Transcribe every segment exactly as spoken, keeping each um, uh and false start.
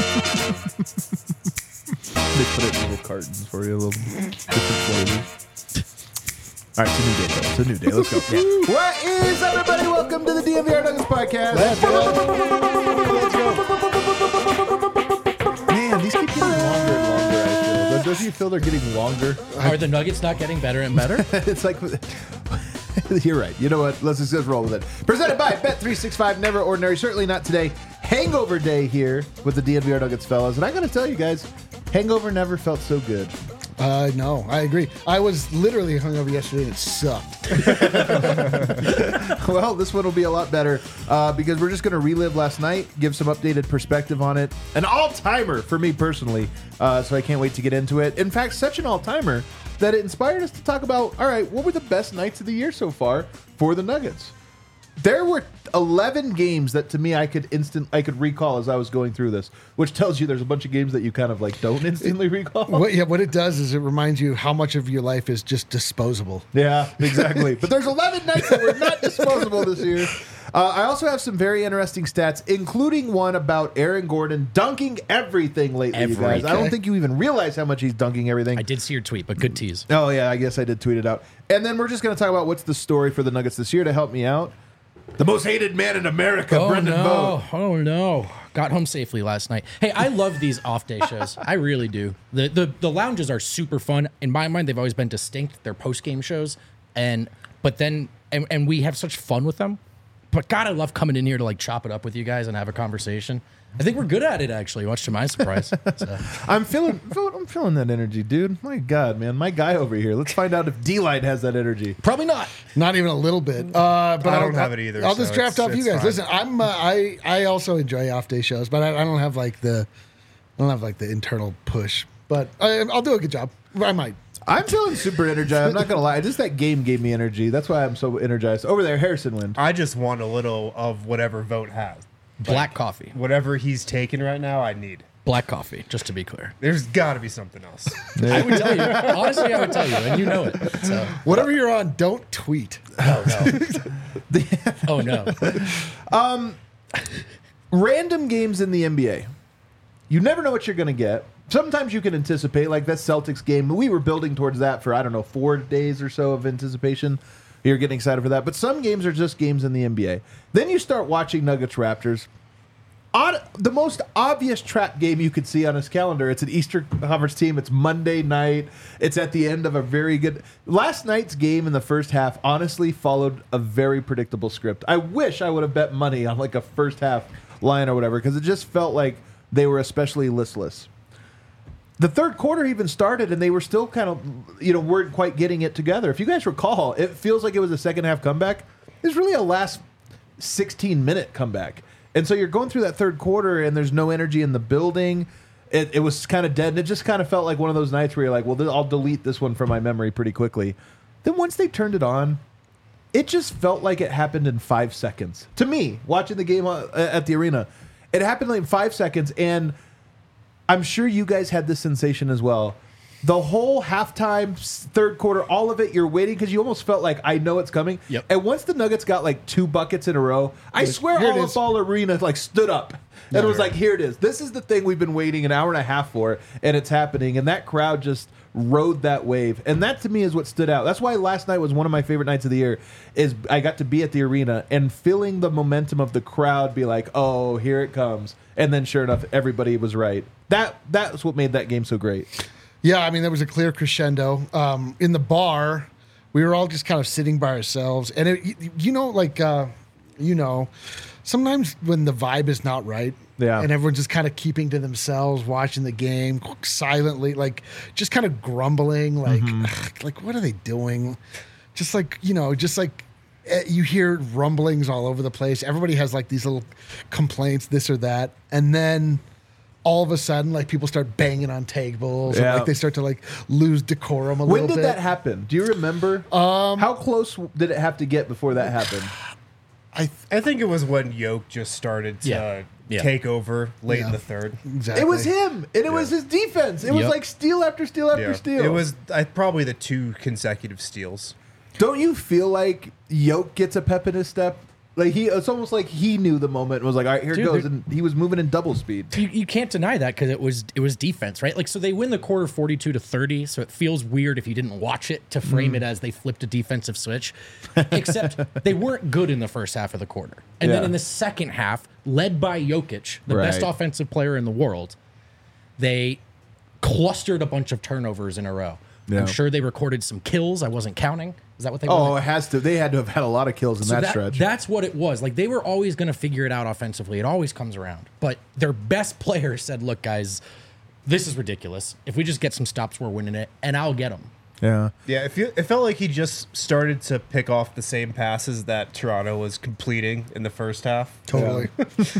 They put it in little cartons for you, a little different flavors. All right, it's a new day, though. It's a new day. Let's go. Yeah. What is up, everybody? Welcome to the D M V R Nuggets podcast. Let's go. Let's go. Man, these keep getting longer and longer, I feel. Don't you feel they're getting longer? Are the Nuggets not getting better and better? It's like... You're right. You know what? Let's just, just roll with it. Presented by Bet three sixty-five. Never ordinary. Certainly not today. Hangover day here with the D N V R Nuggets fellas. And I got to tell you guys, hangover never felt so good. Uh, no, I agree. I was literally hungover yesterday and it sucked. Well, this one will be a lot better uh, because we're just going to relive last night, give some updated perspective on it. An all-timer for me personally, uh, so I can't wait to get into it. In fact, such an all-timer that it inspired us to talk about, all right, what were the best nights of the year so far for the Nuggets? There were eleven games that to me I could instant I could recall as I was going through this, which tells you there's a bunch of games that you kind of like don't instantly recall. What, yeah, what it does is it reminds you how much of your life is just disposable. Yeah, exactly. But there's eleven nights that were not disposable this year. Uh, I also have some very interesting stats, including one about Aaron Gordon dunking everything lately, you guys. I don't think you even realize how much he's dunking everything. I did see your tweet, but good tease. Oh, yeah, I guess I did tweet it out. And then we're just going to talk about what's the story for the Nuggets this year to help me out. The most hated man in America, Oh Brendan no! Vogt. Oh no! Got home safely last night. Hey, I love these off day shows. I really do. The, the the lounges are super fun. In my mind, they've always been distinct. They're post game shows, and but then and, and we have such fun with them. But God, I love coming in here to like chop it up with you guys and have a conversation. I think we're good at it, actually, much to my surprise. So. I'm feeling, I'm feeling that energy, dude. My God, man, my guy over here. Let's find out if D-Light has that energy. Probably not. Not even a little bit. Uh, but I don't I'll, have it either, I'll so just draft it's- off you it's guys. fine. Listen, I'm uh, I I also enjoy off day shows, but I, I don't have like the I don't have like the internal push. But I, I'll do a good job. I might. I'm feeling super energized. I'm not gonna lie. Just that game gave me energy. That's why I'm so energized. Over there, Harrison Wind. I just want a little of whatever Vogt has. Black coffee. Whatever he's taking right now, I need. Black coffee, just to be clear. There's got to be something else. I would tell you. Honestly, I would tell you, and you know it. So. Whatever you're on, don't tweet. Oh, no. oh, no. Random games in the N B A. You never know what you're gonna get. Sometimes you can anticipate, like that Celtics game. We were building towards that for, I don't know, four days or so of anticipation. You're getting excited for that. But some games are just games in the N B A. Then you start watching Nuggets Raptors. On the most obvious trap game you could see on his calendar, it's an Eastern Conference team. It's Monday night. It's at the end of a very good... Last night's game in the first half honestly followed a very predictable script. I wish I would have bet money on like a first half line or whatever, because it just felt like they were especially listless. The third quarter even started, and they were still kind of, you know, weren't quite getting it together. If you guys recall, it feels like it was a second half comeback. It was really a last sixteen minute comeback. And so you're going through that third quarter, and there's no energy in the building. It, it was kind of dead, and it just kind of felt like one of those nights where you're like, well, th- I'll delete this one from my memory pretty quickly. Then once they turned it on, it just felt like it happened in five seconds. To me, watching the game uh, at the arena, it happened like in five seconds, and I'm sure you guys had this sensation as well. The whole halftime, third quarter, all of it, you're waiting because you almost felt like, I know it's coming. Yep. And once the Nuggets got like two buckets in a row, I swear Here it all is. of Ball Arena like stood up. And it was like, here it is. This is the thing we've been waiting an hour and a half for, and it's happening. And that crowd just rode that wave. And that to me is what stood out. That's why last night was one of my favorite nights of the year, is I got to be at the arena and feeling the momentum of the crowd be like, oh, here it comes. And then sure enough, everybody was right. That That's what made that game so great. Yeah, I mean, there was a clear crescendo. Um, in the bar, we were all just kind of sitting by ourselves. And, it, you, you know, like, uh, you know, sometimes when the vibe is not right, Yeah. and everyone's just kind of keeping to themselves, watching the game silently, like, just kind of grumbling, like, ugh, like, what are they doing? Just like, you know, just like, eh, you hear rumblings all over the place. Everybody has, like, these little complaints, this or that. And then all of a sudden, like, people start banging on tables, Yeah. and like they start to like lose decorum a When little did bit. that happen? Do you remember? Um, How close did it have to get before that happened? I th- I think it was when Yoke just started to Yeah. Yeah. take over late Yeah. in the third. exactly. It was him, and it was his defense. It was Yep. like steal after steal after Yeah. steal. It was I, probably the two consecutive steals. Don't you feel like Yoke gets a pep in his step Like he, it's almost like he knew the moment and was like, all right, here it Dude, goes. they're- And he was moving in double speed. You, you can't deny that because it was it was defense, right? Like, so they win the quarter forty-two to thirty. So it feels weird if you didn't watch it to frame Mm. it as they flipped a defensive switch. Except they weren't good in the first half of the quarter, and then Yeah. in the second half, led by Jokic, the best Right. offensive player in the world, they clustered a bunch of turnovers in a row. Yeah. I'm sure they recorded some kills. I wasn't counting. Is that what they? Oh, wanted? it has to. They had to have had a lot of kills in So that, that- stretch. That's what it was. Like they were always going to figure it out offensively. It always comes around. But their best player said, "Look, guys, this is ridiculous. If we just get some stops, we're winning it, and I'll get them." yeah. Yeah, it, feel, it felt like he just started to pick off the same passes that Toronto was completing in the first half. Totally.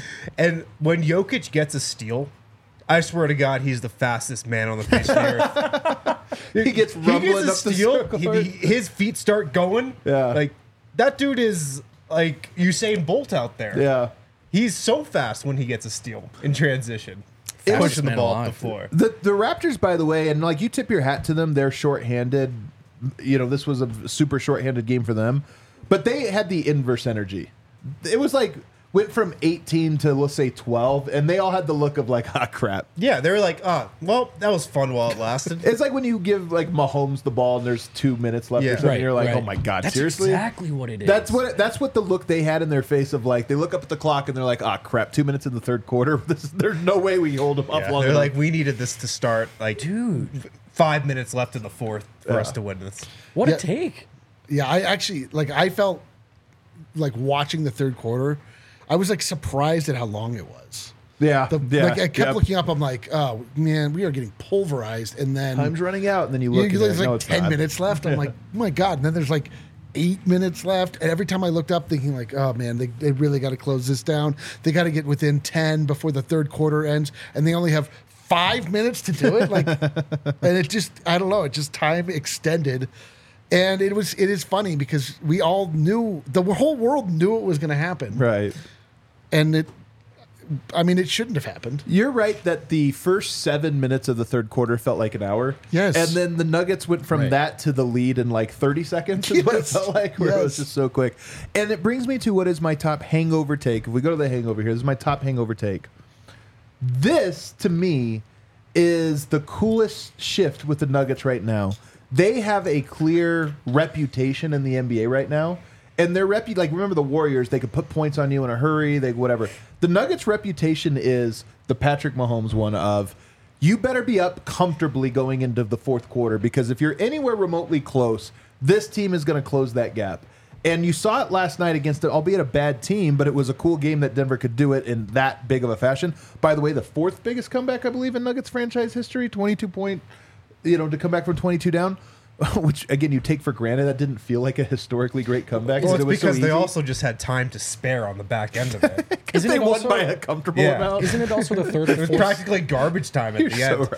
And when Jokic gets a steal, I swear to God, he's the fastest man on the face of the earth. He gets He rumbling gets a up the steal, circle. he- he- his feet start going. Yeah. Like, that dude is like Usain Bolt out there. yeah. He's so fast when he gets a steal in transition. Fastest Pushing the man ball up alive. the floor. The the Raptors, by the way, and like you tip your hat to them, they're shorthanded. You know, this was a super shorthanded game for them, but they had the inverse energy. It was like went from eighteen to let's say twelve, and they all had the look of like, ah, crap. Yeah, they were like, oh, well, that was fun while it lasted. It's like when you give like Mahomes the ball and there's two minutes left Yeah. or something. Right, you're like, right. oh my god, That's seriously? exactly what it is. That's what that's what the look they had in their face of like they look up at the clock and they're like, ah, crap, two minutes in the third quarter. This, there's no way we hold them up Yeah, long they're enough. like, we needed this to start, like, Dude. f- five minutes left in the fourth for Yeah. us to win this. what Yeah. a take. Yeah, I actually like I felt like watching the third quarter, I was like surprised at how long it was. yeah, The, yeah, like I kept yep. looking up, I'm like, oh man, we are getting pulverized. And then Time's running out, and then you you, look. you- and there's you're like no, it's ten not. minutes left. I'm like, oh my god. And then there's like eight minutes left. And every time I looked up, thinking like, oh man, they, they really got to close this down. They got to get within ten before the third quarter ends, and they only have five minutes to do it. Like, and it just, I don't know, it just time extended. And it was, it is funny because we all knew, the whole world knew it was going to happen. Right. And it, I mean, it shouldn't have happened. You're right that the first seven minutes of the third quarter felt like an hour. Yes. And then the Nuggets went from Right. that to the lead in like thirty seconds, is what it Yes. felt like, where it was Yes. just so quick. And it brings me to what is my top hangover take. If we go to the hangover here, this is my top hangover take. This, to me, is the coolest shift with the Nuggets right now. They have a clear reputation in the N B A right now. And their repu like remember the Warriors, they could put points on you in a hurry, they whatever. The Nuggets' reputation is the Patrick Mahomes one of you better be up comfortably going into the fourth quarter because if you're anywhere remotely close, this team is going to close that gap. And you saw it last night against, albeit a bad team, but it was a cool game that Denver could do it in that big of a fashion. By the way, the fourth biggest comeback, I believe, in Nuggets franchise history, twenty-two point, you know, to come back from twenty-two down, which, again, you take for granted. That didn't feel like a historically great comeback. Well, it's it was so because they easy. also just had time to spare on the back end of it. Because Isn't they it won also- by a comfortable Yeah. amount. Isn't it also the third It or was fourth? practically garbage time at You're the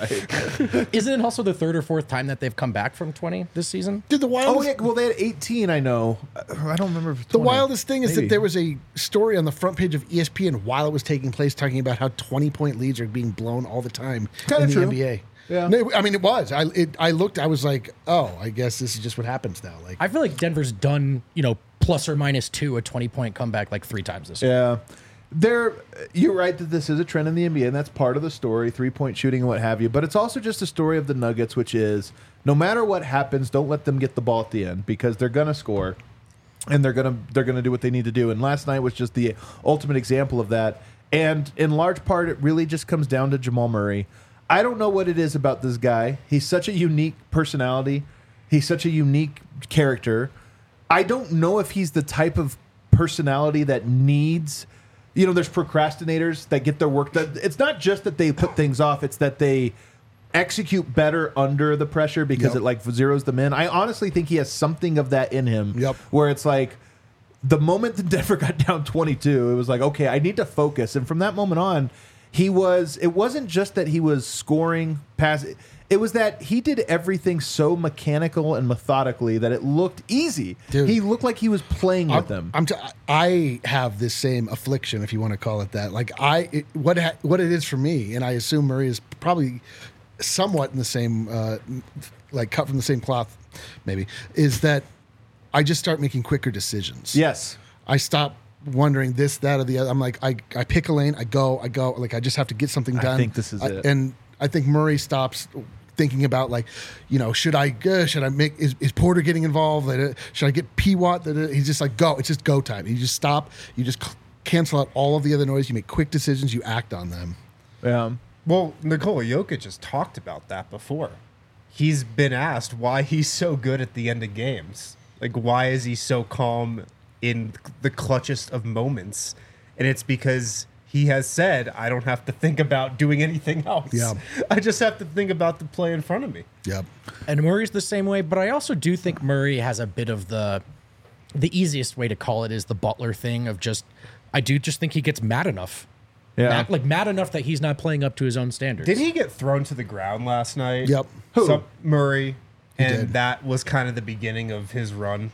so end. right. Isn't it also the third or fourth time that they've come back from twenty this season? Did the Oh, wildest, yeah. Well, they had eighteen, I know. I don't remember. If it's the twenty. wildest thing is Maybe. that there was a story on the front page of E S P N while it was taking place talking about how twenty point leads are being blown all the time Kinda in the true. N B A. Yeah. No, I mean, it was. I it, I looked. I was like, oh, I guess this is just what happens now. Like, I feel like Denver's done, you know, plus or minus two a twenty point comeback like three times this year. Yeah. There, you're right that this is a trend in the N B A, and that's part of the story, three-point shooting and what have you. But it's also just a story of the Nuggets, which is no matter what happens, don't let them get the ball at the end because they're gonna score, and they're gonna they're gonna do what they need to do. And last night was just the ultimate example of that. And in large part, it really just comes down to Jamal Murray. I don't know what it is about this guy. He's such a unique personality. He's such a unique character. I don't know if he's the type of personality that needs, you know, there's procrastinators that get their work done. It's not just that they put things off, it's that they execute better under the pressure because Yep. it like zeroes them in. I honestly think he has something of that in him Yep. where it's like the moment that Denver got down twenty-two, it was like, okay, I need to focus. And from that moment on, he was, it wasn't just that he was scoring pass. It was that he did everything so mechanical and methodically that it looked easy. Dude. He looked like he was playing with I'm, them. I'm t- I have this same affliction, if you want to call it that. Like I, it, what ha- what it is for me, and I assume Murray is probably somewhat in the same, uh, like cut from the same cloth, maybe, is that I just start making quicker decisions. Yes. I stop wondering this, that, or the other. I'm like, I, I pick a lane, I go, I go. Like, I just have to get something done. I think this is I, it. And I think Murray stops thinking about, like, you know, should I uh, should I make is, is Porter getting involved? Uh, Should I get P Watt? Uh, He's just like, go. It's just go time. You just stop. You just c- cancel out all of the other noise. You make quick decisions. You act on them. Yeah. Well, Nikola Jokic has talked about that before. He's been asked why he's so good at the end of games. Like, why is he so calm in the clutchest of moments? And it's because he has said, I don't have to think about doing anything else. Yeah. I just have to think about the play in front of me. Yep. And Murray's the same way, but I also do think Murray has a bit of the the easiest way to call it is the Butler thing of just I do just think he gets mad enough. Yeah. Mad, like mad enough that he's not playing up to his own standards. Did he get thrown to the ground last night? Yep. Who? Some- Murray. And did. that was kind of the beginning of his run.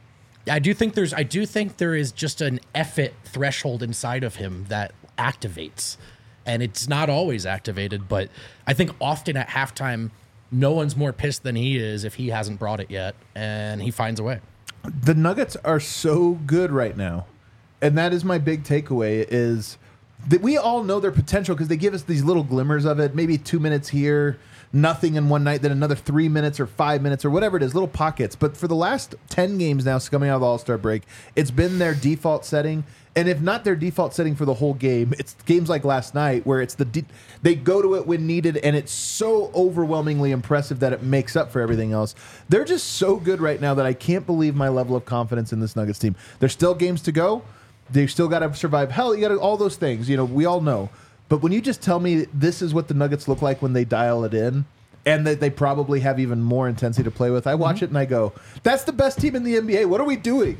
I do think there's I do think there is just an effort threshold inside of him that activates. And it's not always activated, but I think often at halftime, no one's more pissed than he is if he hasn't brought it yet, and he finds a way. The Nuggets are so good right now. And that is my big takeaway is that we all know their potential because they give us these little glimmers of it, maybe two minutes here, nothing in one night, then another three minutes or five minutes or whatever it is, little pockets. But for the last ten games now coming out of the All-Star break, it's been their default setting. And if not their default setting for the whole game, it's games like last night where it's the de- they go to it when needed, and it's so overwhelmingly impressive that it makes up for everything else. They're just so good right now that I can't believe my level of confidence in this Nuggets team. There's still games to go. They've still got to survive. Hell, you got to all those things. You know, we all know. But when you just tell me this is what the Nuggets look like when they dial it in, and that they probably have even more intensity to play with, I watch mm-hmm. it and I go, "That's the best team in the N B A. What are we doing?"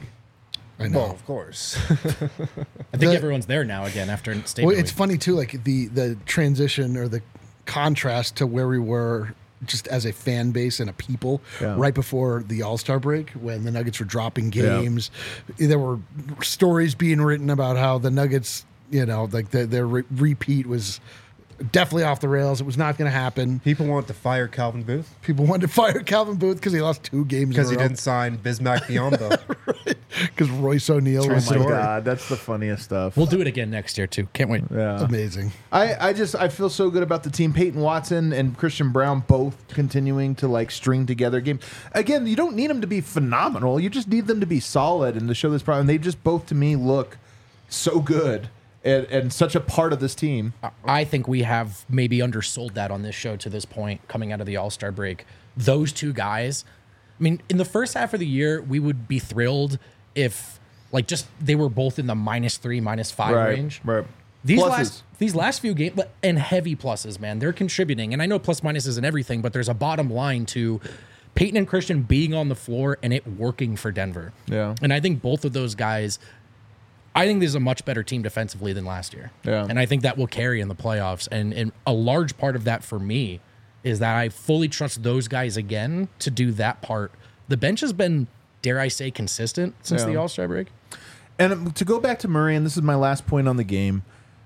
I know. Well, of course. I think The- everyone's there now again after state. Well, it's funny too, like the the transition or the contrast to where we were just as a fan base and a people Yeah. right before the All-Star break when the Nuggets were dropping games. There were stories being written about how the Nuggets, you know, like the, their re- repeat was definitely off the rails. It was not going to happen. People want to fire Calvin Booth People wanted to fire Calvin Booth because he lost two games because he didn't sign Bismack Biyombo. because Royce O'Neal True was Oh my so story. God, that's the funniest stuff. We'll do it again next year too. Can't wait. yeah. amazing. I, I just I feel so good about the team. Peyton Watson and Christian Brown both continuing to like string together games. Again, you don't need them to be phenomenal. You just need them to be solid and to show this problem. They just both to me look so good and, and such a part of this team. I think we have maybe undersold that on this show to this point coming out of the All-Star break. Those two guys, I mean, in the first half of the year, we would be thrilled if like just they were both in the minus three, minus five range. Right. These Pluses. last these last few games and heavy pluses, man, they're contributing. And I know plus minus isn't everything, but there's a bottom line to Peyton and Christian being on the floor and it working for Denver. Yeah. And I think both of those guys, I think this is a much better team defensively than last year. Yeah. And I think that will carry in the playoffs. And, and a large part of that for me is that I fully trust those guys again to do that part. The bench has been, dare I say, consistent since Yeah. the All-Star break. And to go back to Murray, and this is my last point on the game.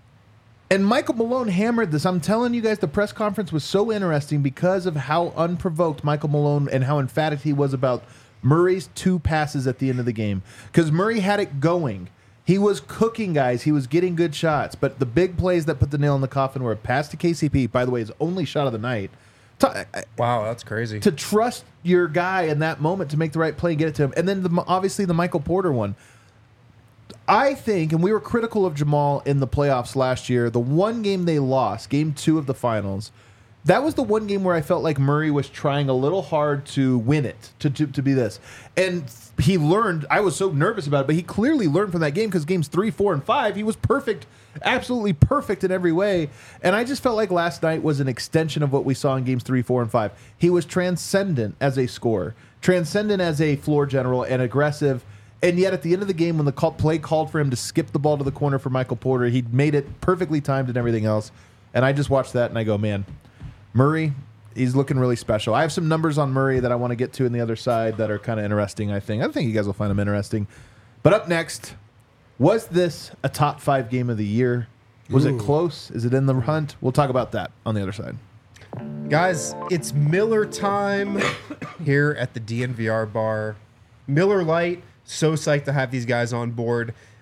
And Michael Malone hammered this. I'm telling you guys, the press conference was so interesting because of how unprovoked Michael Malone and how emphatic he was about Murray's two passes at the end of the game. Because Murray had it going. He was cooking guys. He was getting good shots. But the big plays that put the nail in the coffin were a pass to K C P, by the way, his only shot of the night. To, Wow, that's crazy. to trust your guy in that moment to make the right play and get it to him. And then the, obviously the Michael Porter one. I think, and we were critical of Jamal in the playoffs last year, the one game they lost, game two of the finals, that was the one game where I felt like Murray was trying a little hard to win it, to, to, to be this. And he learned, I was so nervous about it, but he clearly learned from that game because games three, four, and five, he was perfect, absolutely perfect in every way. And I just felt like last night was an extension of what we saw in games three, four, and five. He was transcendent as a scorer, transcendent as a floor general, and aggressive. And yet, at the end of the game, when the call, play called for him to skip the ball to the corner for Michael Porter, he made it perfectly timed and everything else. And I just watched that and I go, man, Murray, he's looking really special. I have some numbers on Murray that I want to get to in the other side that are kind of interesting, I think. I think you guys will find them interesting. But up next, was this a top five game of the year? Was Ooh. it close? Is it in the hunt? We'll talk about that on the other side. Guys, it's Miller time here at the D N V R bar. Miller Lite, so psyched to have these guys on board.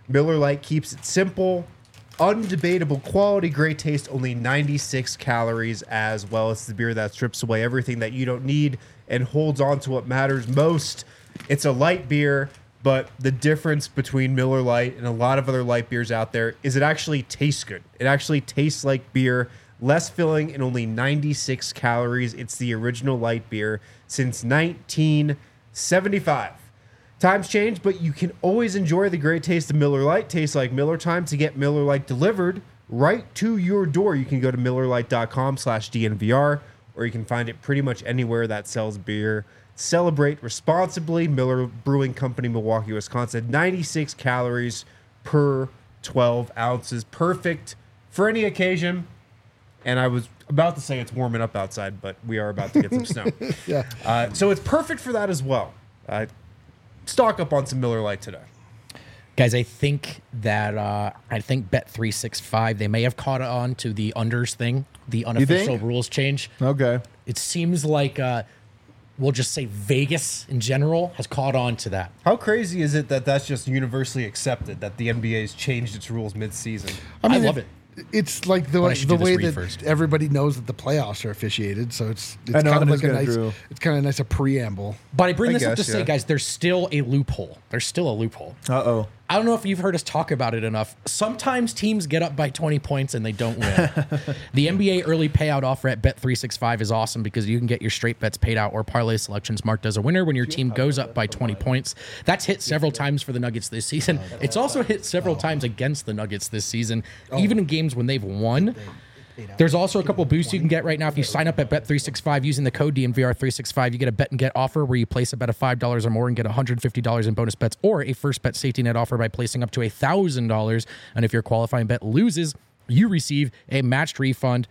Miller Lite keeps it simple, undebatable quality, great taste, only ninety-six calories as well. It's the beer that strips away everything that you don't need and holds on to what matters most. It's a light beer, but the difference between Miller Lite and a lot of other light beers out there is it actually tastes good. It actually tastes like beer, less filling and only ninety-six calories. It's the original light beer since nineteen seventy-five. Times change, but you can always enjoy the great taste of Miller Lite. Tastes like Miller time. To get Miller Lite delivered right to your door, you can go to millerlite.com slash DNVR, or you can find it pretty much anywhere that sells beer. Celebrate responsibly. Miller Brewing Company, Milwaukee, Wisconsin. ninety-six calories per twelve ounces. Perfect for any occasion. And I was about to say it's warming up outside, but we are about to get some snow. Yeah. Uh, so it's perfect for that as well. Uh, stock up on some Miller Lite today. Guys, I think that uh, I think Bet three sixty-five, they may have caught on to the unders thing, the unofficial think? rules change. Okay. It seems like uh, we'll just say Vegas in general has caught on to that. How crazy is it that that's just universally accepted, that the N B A's changed its rules mid-season? I love it. It's like the But I should the do this way read that first. everybody knows that the playoffs are officiated, so it's it's I know, kind of it like is a kinda nice true. it's kind of nice a preamble. But I bring I this up to guess, say, yeah. guys, there's still a loophole. There's still a loophole. Uh-oh. I don't know if you've heard us talk about it enough. Sometimes teams get up by twenty points and they don't win. The N B A early payout offer at Bet three sixty-five is awesome because you can get your straight bets paid out or parlay selections marked as a winner when your team goes up by twenty points. That's hit several times for the Nuggets this season. It's also hit several times against the Nuggets this season, even in games when they've won. There's also a couple boosts you can get right now if you sign up at Bet three sixty-five using the code D N V R three sixty-five. You get a bet and get offer where you place a bet of five dollars or more and get one hundred fifty dollars in bonus bets, or a first bet safety net offer by placing up to one thousand dollars. And if your qualifying bet loses, you receive a matched refund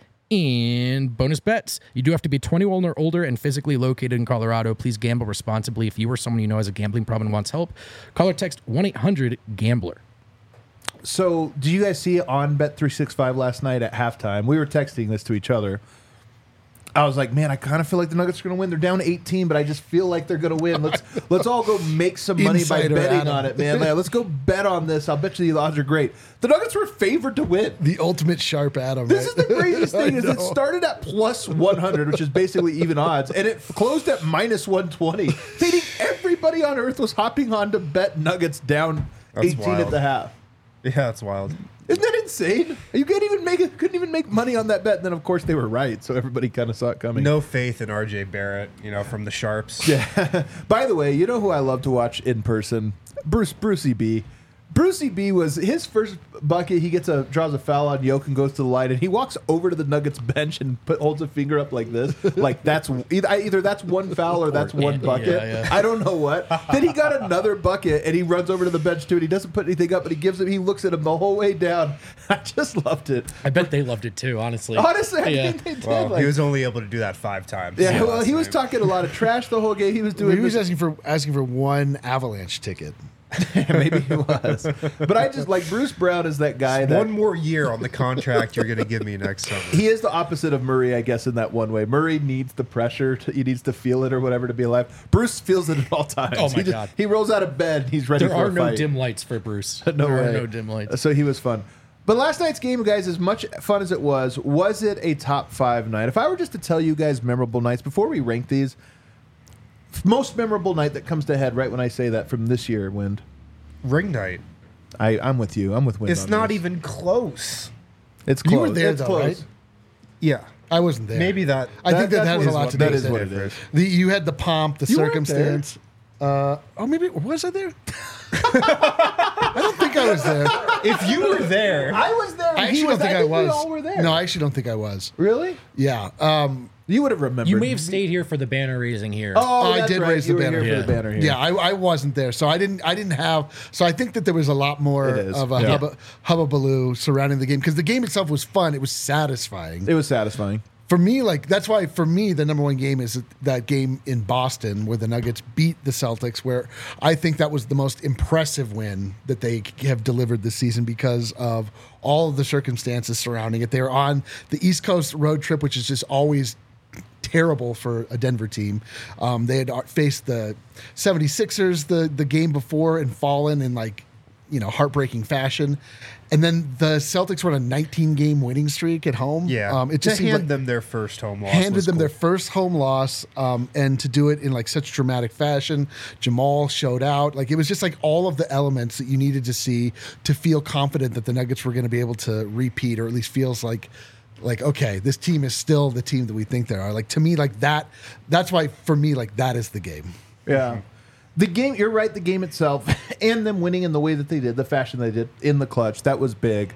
in bonus bets. You do have to be twenty-one or older and physically located in Colorado. Please gamble responsibly. If you or someone you know has a gambling problem and wants help, call or text one eight hundred gambler. So, did you guys see on Bet three sixty-five last night at halftime? We were texting this to each other. I was like, man, I kind of feel like the Nuggets are going to win. They're down eighteen, but I just feel like they're going to win. Let's let's all go make some money Insider by betting Adam. on it, man. Like, let's go bet on this. I'll bet you the odds are great. The Nuggets were favored to win. The ultimate sharp Adam. This is right? the craziest thing is I it know. started at plus one hundred, which is basically even odds, and it closed at minus one twenty. Meaning everybody on earth was hopping on to bet Nuggets down That's eighteen at wild. the half. Yeah, that's wild. Isn't that insane? You can't even make it. Couldn't even make money on that bet. And then, of course, they were right, so everybody kind of saw it coming. No faith in R J Barrett, you know, from the Sharps. Yeah. By the way, you know who I love to watch in person? Bruce Brucey B. Brucey B was his first bucket. He gets a draws a foul on Yoke and goes to the line, and he walks over to the Nuggets bench and put, holds a finger up like this, like that's either, either that's one foul or that's one Yeah, bucket. yeah, yeah. I don't know what. Then he got another bucket, and he runs over to the bench too, and he doesn't put anything up, but he gives him. He looks at him the whole way down. I just loved it. I bet they loved it too, honestly. Honestly, I Yeah. think they did. Well, like- he was only able to do that five times. yeah, well, last he was night. talking a lot of trash the whole game. He was doing. He was this- asking for asking for one Avalanche ticket. Maybe he was, but I just like Bruce Brown is that guy that One more year on the contract you're going to give me next summer. he is the opposite of Murray, I guess, in that one way. Murray needs the pressure, to, he needs to feel it or whatever to be alive. Bruce feels it at all times. Oh, my he just, God. He rolls out of bed, he's ready There for are a no fight. dim lights for Bruce. No there way. are no dim lights. So he was fun. But last night's game, guys, as much fun as it was, was it a top five night? If I were just to tell you guys memorable nights before we rank these, most memorable night that comes to head right when I say that from this year, Wind. Ring night. I, I'm with you. I'm with Wind. It's on not this. even close. It's close. You were there, it's though, close. right? Yeah. I wasn't there. Maybe that. I think that, that's that has what a is lot what- to do that with is what it. it is. The, you had the pomp, the You weren't circumstance. Uh, oh, maybe was I there? I don't think I was there. If you were there, I was there. I He actually don't think I we was. all were there. No, I actually don't think I was. Really? Yeah. Um, You would have remembered. You may have stayed here for the banner raising here. Oh, I that's did right. raise You the were banner. here for the Yeah. banner here. yeah, I, I wasn't there, so I didn't. I didn't have. So I think that there was a lot more It is. of a Yeah. hubba, hubbubaloo surrounding the game because the game itself was fun. It was satisfying. It was satisfying. For me, like that's why for me the number one game is that game in Boston where the Nuggets beat the Celtics, where I think that was the most impressive win that they have delivered this season because of all of the circumstances surrounding it. They were on the East Coast road trip, which is just always terrible for a Denver team. Um, they had faced the seventy-sixers the the game before and fallen in like you know, heartbreaking fashion. And then the Celtics were on a nineteen game winning streak at home. Yeah. Um, it to just seemed hand like them their first home loss. handed was them cool. their first home loss, um, and to do it in like such dramatic fashion. Jamal showed out. Like it was just like all of the elements that you needed to see to feel confident that the Nuggets were going to be able to repeat, or at least feels like, like, okay, this team is still the team that we think they are. Like to me, like that, that's why for me, like that is the game. Yeah. The game, you're right, the game itself and them winning in the way that they did, the fashion they did in the clutch, that was big.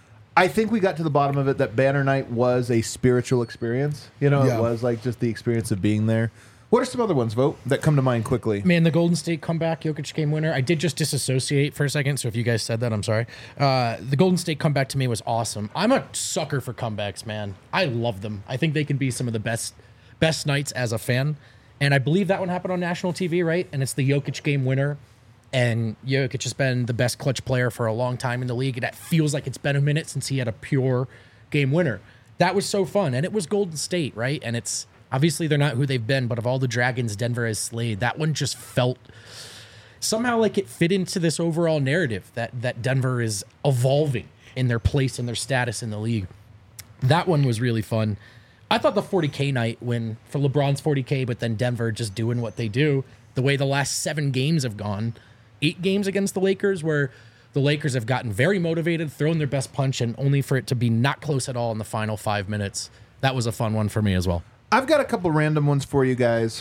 I think we got to the bottom of it that Banner Night was a spiritual experience. You know, Yeah. it was like just the experience of being there. What are some other ones, Vote, that come to mind quickly? Man, the Golden State comeback, Jokic game winner. I did just disassociate for a second, so if you guys said that, I'm sorry. Uh, the Golden State comeback to me was awesome. I'm a sucker for comebacks, man. I love them. I think they can be some of the best best nights as a fan. And I believe that one happened on national T V, right? And it's the Jokic game winner. And Jokic has been the best clutch player for a long time in the league. And that feels like it's been a minute since he had a pure game winner. That was so fun. And it was Golden State, right? And it's obviously they're not who they've been, but of all the dragons Denver has slayed, that one just felt somehow like it fit into this overall narrative that that Denver is evolving in their place and their status in the league. That one was really fun. I thought the forty K night when for LeBron's forty K, but then Denver just doing what they do, the way the last seven games have gone, eight games against the Lakers where the Lakers have gotten very motivated, thrown their best punch, and only for it to be not close at all in the final five minutes. That was a fun one for me as well. I've got a couple random ones for you guys.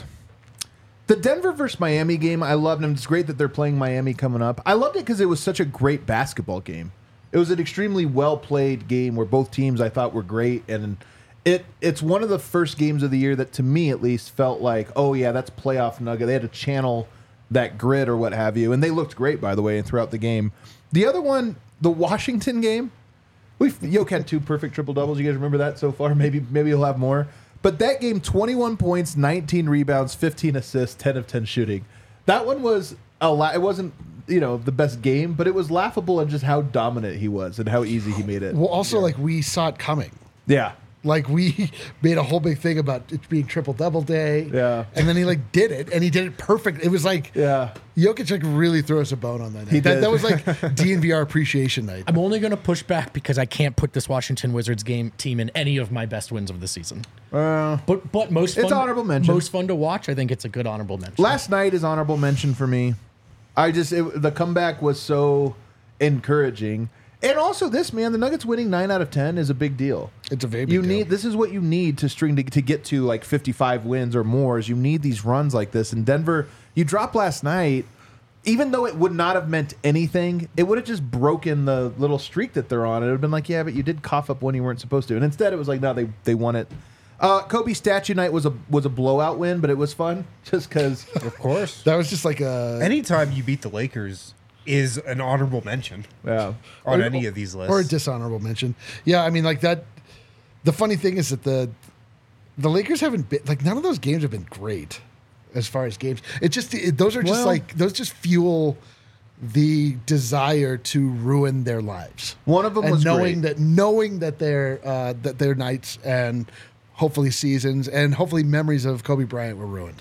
The Denver versus Miami game, I loved them. It's great that they're playing Miami coming up. I loved it because it was such a great basketball game. It was an extremely well-played game where both teams I thought were great, and it it's one of the first games of the year that, to me at least, felt like, oh yeah, that's playoff Nugget. They had to channel that grit or what have you, and they looked great, by the way, throughout the game. The other one, the Washington game, we've Yoke had two perfect triple doubles. You guys remember that so far? Maybe maybe he'll have more. But that game, twenty-one points, nineteen rebounds, fifteen assists, ten of ten shooting. That one was a lot. It wasn't, you know, the best game, but it was laughable in just how dominant he was and how easy he made it. Well, also like we saw it coming. Yeah. Like we made a whole big thing about it being triple double day. Yeah. And then he like did it and he did it perfect. It was like Yeah. Jokic like really threw us a bone on that night. He that, did. that was like D N V R appreciation night. I'm only going to push back because I can't put this Washington Wizards game team in any of my best wins of the season. Uh, But but most It's fun, honorable mention. Most fun to watch. I think it's a good honorable mention. last night is honorable mention for me. I just it, the comeback was so encouraging. And also this, man, the Nuggets winning nine out of ten is a big deal. It's a very big you deal. need this is what you need to string to, to get to like fifty-five wins or more. Is you need these runs like this. And Denver, you dropped last night, even though it would not have meant anything, it would have just broken the little streak that they're on. It would have been like, yeah, but you did cough up when you weren't supposed to. And instead, it was like, no, they they won it. Uh, Kobe statue night was a was a blowout win, but it was fun just because. Of course. That was just like a Anytime you beat the Lakers is an honorable mention Yeah. on or- any of these lists. or a dishonorable mention. Yeah, I mean like that. The funny thing is that the the Lakers haven't been like none of those games have been great as far as games. It just it, those are just Well- like those just fuel the desire to ruin their lives. One of them and was knowing great. that knowing that their uh, that their nights and hopefully seasons and hopefully memories of Kobe Bryant were ruined.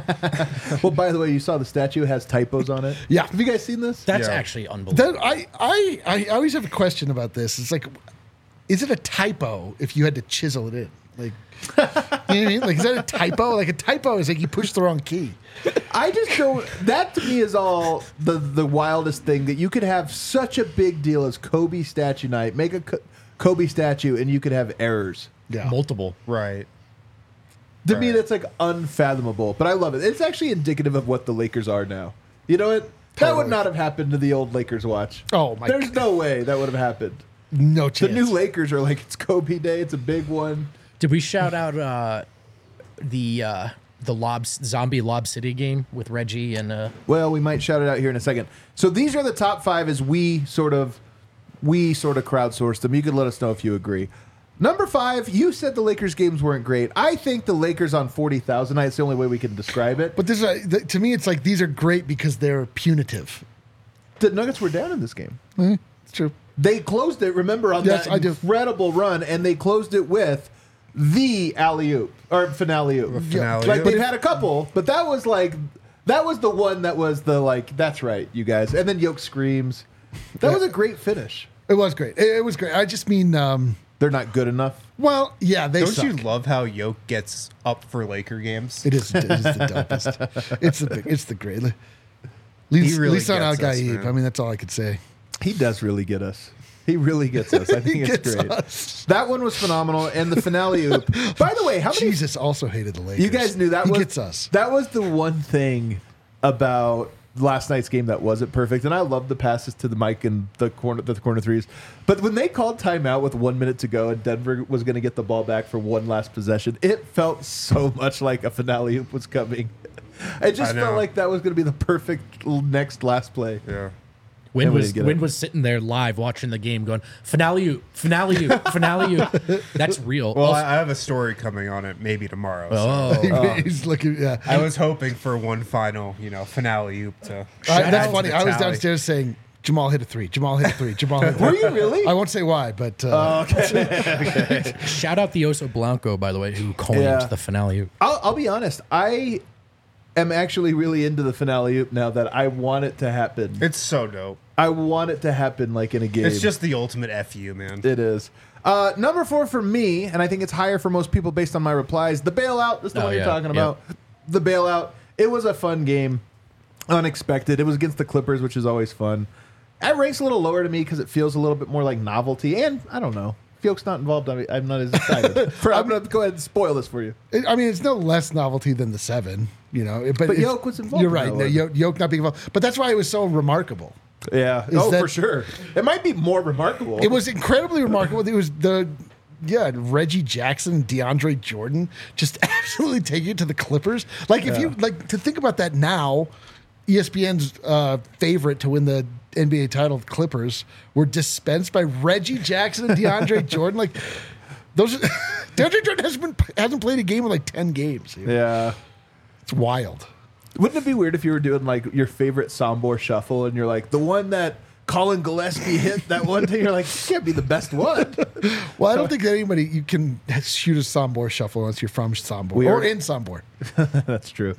Well, by the way, you saw the statue has typos on it. Yeah. Have you guys seen this? That's Yeah. actually unbelievable. That I, I I always have a question about this. It's like, is it a typo if you had to chisel it in? Like, you know what I mean? Like, is that a typo? Like a typo is like you pushed the wrong key. I just don't. That to me is all the the wildest thing that you could have such a big deal as Kobe statue night, make a Co- Kobe statue, and you could have errors. Yeah. Multiple. right. To me, Right. that's like unfathomable. But I love it. It's actually indicative of what the Lakers are now. You know what? That Totally. would not have happened to the old Lakers watch. Oh, my There's God. no way that would have happened. No The chance. new Lakers are like, it's Kobe Day. It's a big one. Did we shout out uh, the uh, the Lob Zombie Lob City game with Reggie and uh, Well, we might shout it out here in a second. So these are the top five as we sort of we sort of crowdsourced them. You could let us know if you agree. Number five, you said the Lakers games weren't great. I think the Lakers on forty thousand nights the only way we can describe it. But this is a, th- to me, it's like these are great because they're punitive. The Nuggets were down in this game. It's true. They closed it, remember, on Yes, that I do. incredible run, and they closed it with the alley-oop, or finale oop. finale Like, oop. they've had a couple, but that was like, that was the one that was the, like, that's right, you guys. And then Yoke screams. That was a great finish. It was great. It, it was great. I just mean, um, They're not good enough. well, yeah, they Don't suck. you love how Yoke gets up for Laker games? It is, it is the dopest. It's the big, it's the great. At least, He really at least on Al gets us, Gaib. man. I mean, that's all I could say. He does really get us. He really gets us. I think He it's gets great. us. That one was phenomenal, and the finale oop. By the way, how many Jesus also hated the Lakers. you guys knew that he was gets us. That was the one thing about last night's game that wasn't perfect, and I love the passes to the Mike and the corner the corner threes. But when they called timeout with one minute to go and Denver was going to get the ball back for one last possession, it felt so much like a finale oop was coming. It just I know. felt like that was going to be the perfect l- next last play. Yeah. Win And we was didn't get Win it. was sitting there live watching the game, going finale you, finale you, finale you. That's real. Well, Also- I I have a story coming on it maybe tomorrow. so. oh, He's looking. Yeah, I was hoping for one final, you know, finale oop to. I- shout out that's to funny. the I was tally. downstairs saying Jamal hit a three. Jamal hit a three. Jamal hit a three. Were you really? I won't say why, but uh, shout out the Oso Blanco, by the way, who coined Yeah. the finale. I'll, I'll be honest. I am actually really into the finale oop now that I want it to happen. It's so dope. I want it to happen like in a game. It's just the ultimate F you, man. It is. Uh, number four for me, and I think it's higher for most people based on my replies. The bailout. That's the Oh, one you're yeah, talking yeah. about. The bailout. It was a fun game. Unexpected. It was against the Clippers, which is always fun. It ranks a little lower to me because it feels a little bit more like novelty. And I don't know. If Yoke's not involved, I'm I'm not as excited. For, I'm going to go ahead and spoil this for you. it, I mean, it's no less novelty than the seven. You know, it- but, But it's- Yoke was involved You're in right. that No, one. Yoke, Yoke not being involved, but that's why it was so remarkable. Yeah. Is oh, that- for sure. It might be more remarkable. It was incredibly remarkable. It was the yeah Reggie Jackson, DeAndre Jordan, just absolutely taking it to the Clippers. Like if you like to think about that now, E S P N's uh, favorite to win the N B A title, the Clippers, were dispensed by Reggie Jackson and DeAndre Jordan. Like those, DeAndre Jordan hasn't been, hasn't played a game in like ten games. Yeah. It's wild. Wouldn't it be weird if you were doing like your favorite Sombor shuffle and you're like the one that Colin Gillespie hit that one day? You're like, this can't be the best one. Well, I don't think anybody you can shoot a Sombor shuffle unless you're from Sombor We or are- in Sombor. That's true.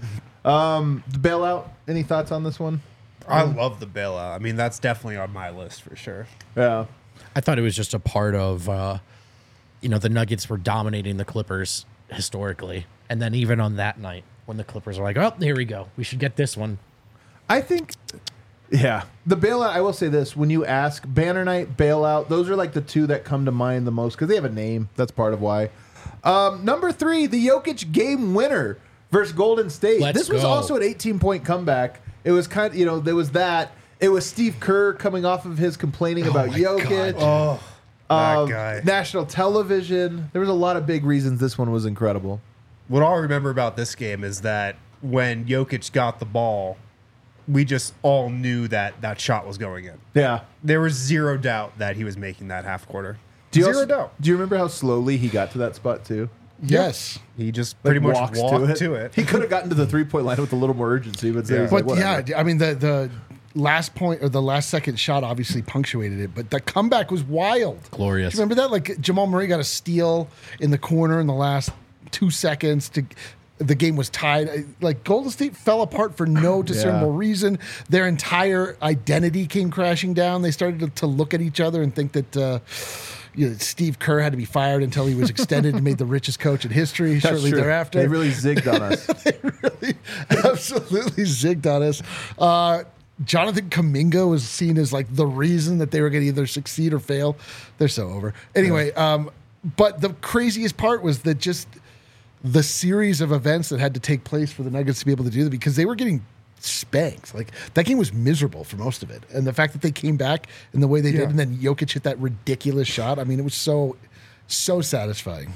Um, the bailout. Any thoughts on this one? I love the bailout. I mean, that's definitely on my list for sure. Yeah. I thought it was just a part of, uh, you know, the Nuggets were dominating the Clippers historically, and then even on that night when the Clippers were like, "Oh, here we go, we should get this one." I think, yeah, the bailout. I will say this: when you ask Banner Night, bailout, those are like the two that come to mind the most because they have a name. That's part of why. Um, number three, the Jokic game winner versus Golden State. Let's this was go. also an eighteen point comeback. It was kind of, you know, there was that. It was Steve Kerr coming off of his complaining about my Jokic. God. Oh, that um, guy. National television. There was a lot of big reasons this one was incredible. What I'll remember about this game is that when Jokic got the ball, we just all knew that that shot was going in. Yeah. There was zero doubt that he was making that half quarter. Do you Zero also- doubt. Do you remember how slowly he got to that spot too? Yes. He just Like, pretty much walks walked to it. He could have gotten to the three point line with a little more urgency, but, Yeah. yeah. But like, whatever. yeah, I mean the the last point or the last second shot obviously punctuated it, but the comeback was wild. Glorious. Do you remember that? Like Jamal Murray got a steal in the corner in the last two seconds to. The game was tied. Like Golden State fell apart for no discernible Yeah. reason. Their entire identity came crashing down. They started to, to look at each other and think that uh, you know, Steve Kerr had to be fired until he was extended and made the richest coach in history That's shortly true. thereafter. They really zigged on us. really absolutely zigged on us. Uh, Jonathan Kuminga was seen as like the reason that they were going to either succeed or fail. They're so over. Anyway, um, but the craziest part was that just the series of events that had to take place for the Nuggets to be able to do that because they were getting spanked. Like that game was miserable for most of it. And the fact that they came back in the way they Yeah. did and then Jokic hit that ridiculous shot. I mean, it was so, so satisfying.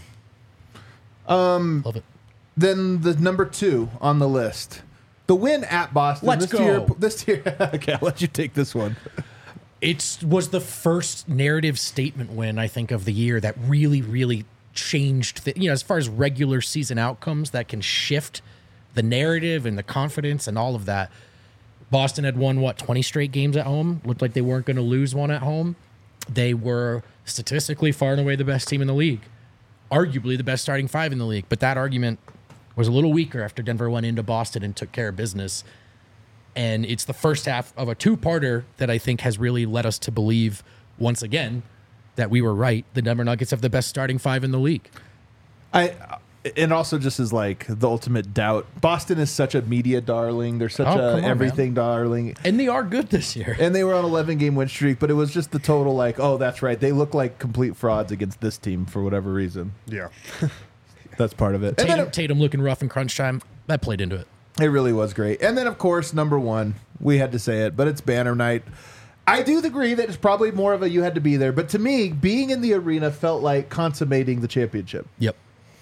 Love it. Then the number two on the list, the win at Boston. Let's this Year, go. this year, okay, I'll let you take this one. It was the first narrative statement win, I think, of the year that really, really changed, the, you know, as far as regular season outcomes that can shift the narrative and the confidence and all of that. Boston had won, what, twenty straight games at home? Looked like they weren't going to lose one at home. They were statistically far and away the best team in the league, arguably the best starting five in the league. But that argument was a little weaker after Denver went into Boston and took care of business. And it's the first half of a two-parter that I think has really led us to believe once again that we were right. The Denver Nuggets have the best starting five in the league. I and also just as like the ultimate doubt. Boston is such a media darling. They're such Oh, a come on, everything man. darling. And they are good this year. And they were on an eleven game win streak, but it was just the total like, oh, that's right. They look like complete frauds against this team for whatever reason. Yeah. That's part of it. And Tatum, then it, Tatum looking rough in crunch time. That played into it. it really was great. And then, of course, number one, we had to say it, but it's banner night. I do agree that it's probably more of a you had to be there. But to me, being in the arena felt like consummating the championship. Yep.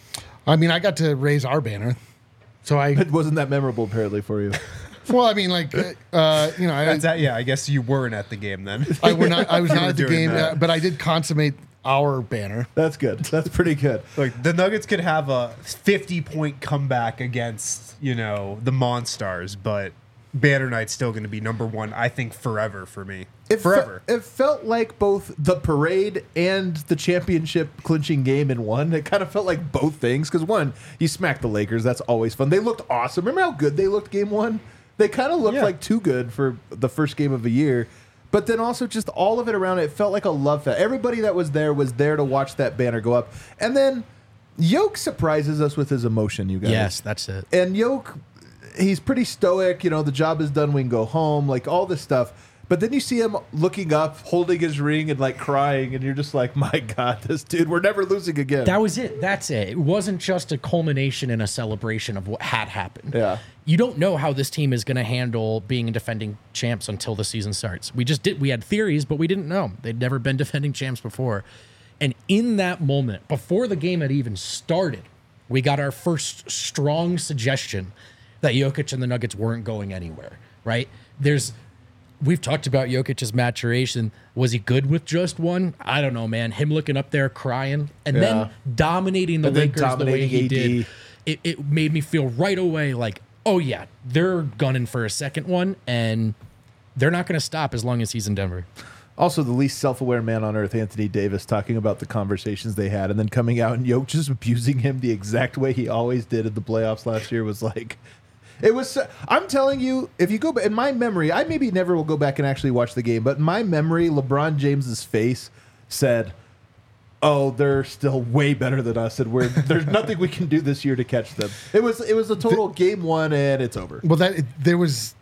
I mean, I got to raise our banner, so I. It wasn't that memorable, apparently, for you. Well, I mean, like, uh, you know, I, That's that, yeah, I guess you weren't at the game then. I, were not, I was You not were at the doing game, that. uh, but I did consummate our banner. That's good. That's pretty good. Like the Nuggets could have a fifty point comeback against, you know, the Monstars, but Banner Night's still going to be number one, I think, forever for me. It fe- forever. it felt like both the parade and the championship clinching game in one. It kind of felt like both things. Because one, you smack the Lakers. That's always fun. They looked awesome. Remember how good they looked game one? They kind of looked Yeah. like too good for the first game of the year. But then also just all of it around it, it felt like a love fest. Everybody that was there was there to watch that banner go up. And then Yoke surprises us with his emotion, you guys. Yes, that's it. And Yoke, he's pretty stoic. You know, the job is done. We can go home. Like all this stuff. But then you see him looking up, holding his ring, and like crying, and you're just like, "My God, this dude, we're never losing again." That was it. That's it. It wasn't just a culmination and a celebration of what had happened. Yeah. You don't know how this team is going to handle being defending champs until the season starts. We just did. We had theories, but we didn't know. They'd never been defending champs before. And in that moment, before the game had even started, we got our first strong suggestion that Jokic and the Nuggets weren't going anywhere. Right? There's. We've talked about Jokic's maturation. Was he good with just one? I don't know, man. Him looking up there crying and Yeah. then dominating the And then Lakers the way dominating he A D. did. It, it made me feel right away like, oh, yeah, they're gunning for a second one, and they're not going to stop as long as he's in Denver. Also, the least self-aware man on earth, Anthony Davis, talking about the conversations they had, and then coming out and Yoke just abusing him the exact way he always did in the playoffs last year was like. It was. I'm telling you, if you go back in my memory, I maybe never will go back and actually watch the game. But in my memory, LeBron James's face said, "Oh, they're still way better than us, and we're there's nothing we can do this year to catch them." It was. It was a total game one, and it's over. Well, that there was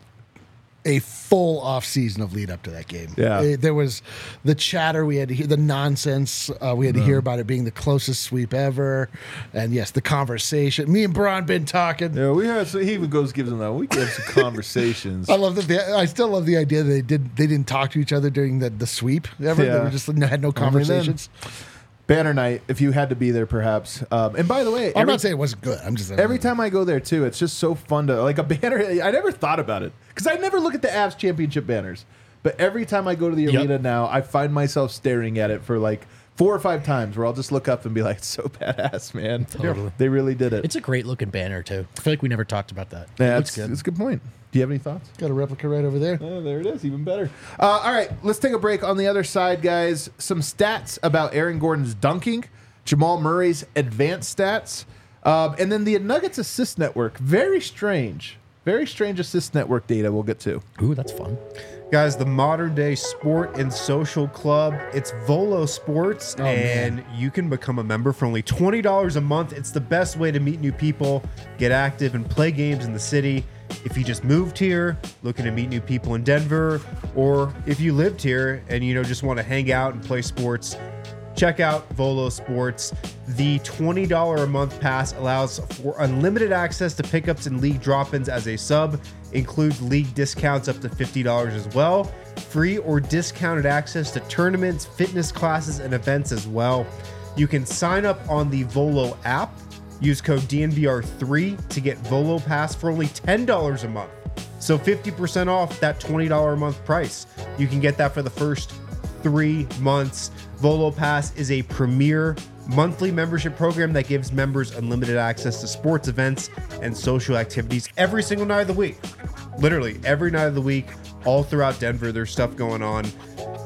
a full off season of lead up to that game. Yeah. Uh, there was the chatter we had to hear, the nonsense uh, we had to hear about it being the closest sweep ever, and yes, the conversation. Me and Bron been talking. Yeah, we had. So he even goes gives them that. We had some conversations. I love that. The, I still love the idea that they did. They didn't talk to each other during the, the sweep ever. They Yeah. were just had no I mean, then- conversations. Banner night, if you had to be there, perhaps. Um, and by the way, I'm every- not saying it wasn't good. I'm just Every time I go there too, it's just so fun to like a banner. I never thought about it because I never look at the Avs championship banners. But every time I go to the Yep. arena now, I find myself staring at it for like four or five times, where I'll just look up and be like, "It's so badass, man! Totally. They really did it." It's a great looking banner, too. I feel like we never talked about that. yeah, it looks it's, good. it's a good point. Do you have any thoughts? got a replica right over there. Oh, there it is, even better. Uh, all right, let's take a break. On the other side, guys, some stats about Aaron Gordon's dunking, Jamal Murray's advanced stats, um, and then the Nuggets assist network. Very strange. Very strange assist network data we'll get to. Ooh, that's fun. Guys, the modern day sport and social club, it's Volo Sports, Oh, and man. you can become a member for only twenty dollars a month. It's the best way to meet new people, get active, and play games in the city. If you just moved here, looking to meet new people in Denver, or if you lived here and you know just want to hang out and play sports, check out Volo Sports. The twenty dollars a month pass allows for unlimited access to pickups and league drop-ins as a sub, includes league discounts up to fifty dollars as well, free or discounted access to tournaments, fitness classes, and events as well. You can sign up on the Volo app, use code D N V R three to get Volo Pass for only ten dollars a month. So fifty percent off that twenty dollars a month price. You can get that for the first three months. Volo Pass is a premier monthly membership program that gives members unlimited access to sports events and social activities every single night of the week. Literally every night of the week, all throughout Denver, there's stuff going on.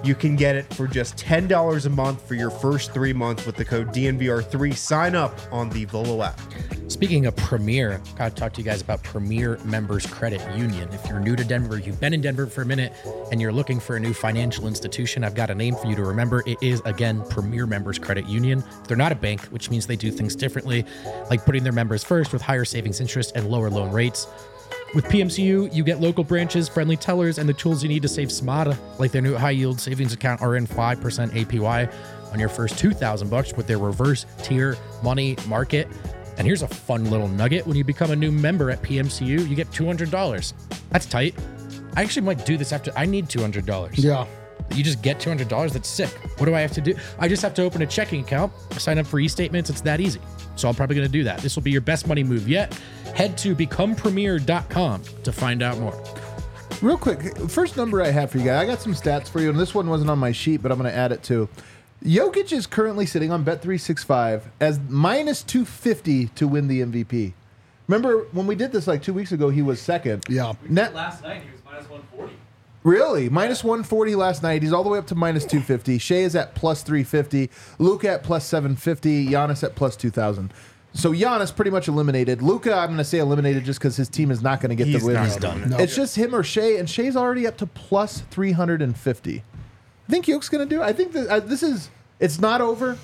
You can get it for just ten dollars a month for your first three months with the code D N V R three. Sign up on the Volo app. Speaking of Premier, I gotta talk to you guys about Premier Members Credit Union. If you're new to Denver, you've been in Denver for a minute, and you're looking for a new financial institution, I've got a name for you to remember. It is, again, Premier Members Credit Union. They're not a bank, which means they do things differently, like putting their members first with higher savings interest and lower loan rates. With P M C U, you get local branches, friendly tellers, and the tools you need to save smarter, like their new high-yield savings account are in five percent A P Y on your first two thousand bucks with their reverse tier money market. And here's a fun little nugget. When you become a new member at P M C U, you get two hundred dollars. That's tight. I actually might do this after. I need two hundred dollars. Yeah. You just get two hundred dollars. That's sick. What do I have to do? I just have to open a checking account, sign up for e-statements. It's that easy. So I'm probably going to do that. This will be your best money move yet. Head to become premier dot com to find out more. Real quick, first number I have for you guys. I got some stats for you, and this one wasn't on my sheet, but I'm going to add it too. Jokic is currently sitting on Bet three sixty-five as minus two fifty to win the M V P. Remember when we did this like two weeks ago, he was second. Yeah. Net, Last night he was minus one forty. Really? Minus one forty last night. He's all the way up to minus two fifty. Shea is at plus three fifty. Luka at plus seven fifty. Giannis at plus two thousand. So Giannis pretty much eliminated. Luka, I'm going to say eliminated just because his team is not going to get He's the win. not He's done. No. It's just him or Shea, and Shea's already up to plus three hundred fifty. I think Yoke's going to do it. I think that uh, this is, it's not over.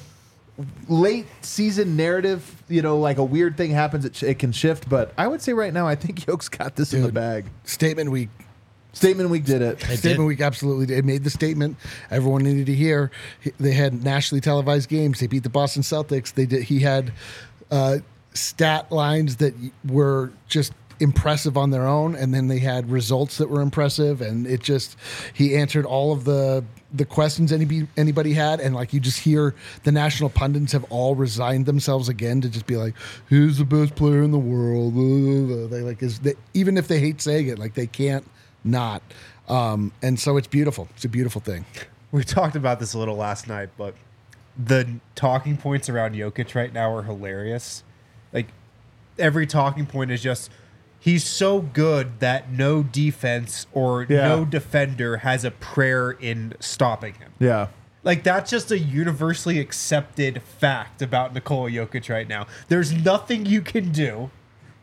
Late season narrative, you know, like a weird thing happens, it, sh- it can shift, but I would say right now, I think Yoke's got this in the Dude. bag. Statement week. Statement week did it. They Statement did. week absolutely did. It made the statement everyone needed to hear. He- They had nationally televised games. They beat the Boston Celtics. They did. He had uh, stat lines that were just impressive on their own, and then they had results that were impressive. And it just he answered all of the the questions anybody anybody had, and like you just hear the national pundits have all resigned themselves again to just be like, "Who's the best player in the world?" They like is they, even if they hate saying it, like they can't not. Um, and so it's beautiful. It's a beautiful thing. We talked about this a little last night, but the talking points around Jokic right now are hilarious. Like, every talking point is just, he's so good that no defense or Yeah. no defender has a prayer in stopping him. Yeah. Like, that's just a universally accepted fact about Nikola Jokic right now. There's nothing you can do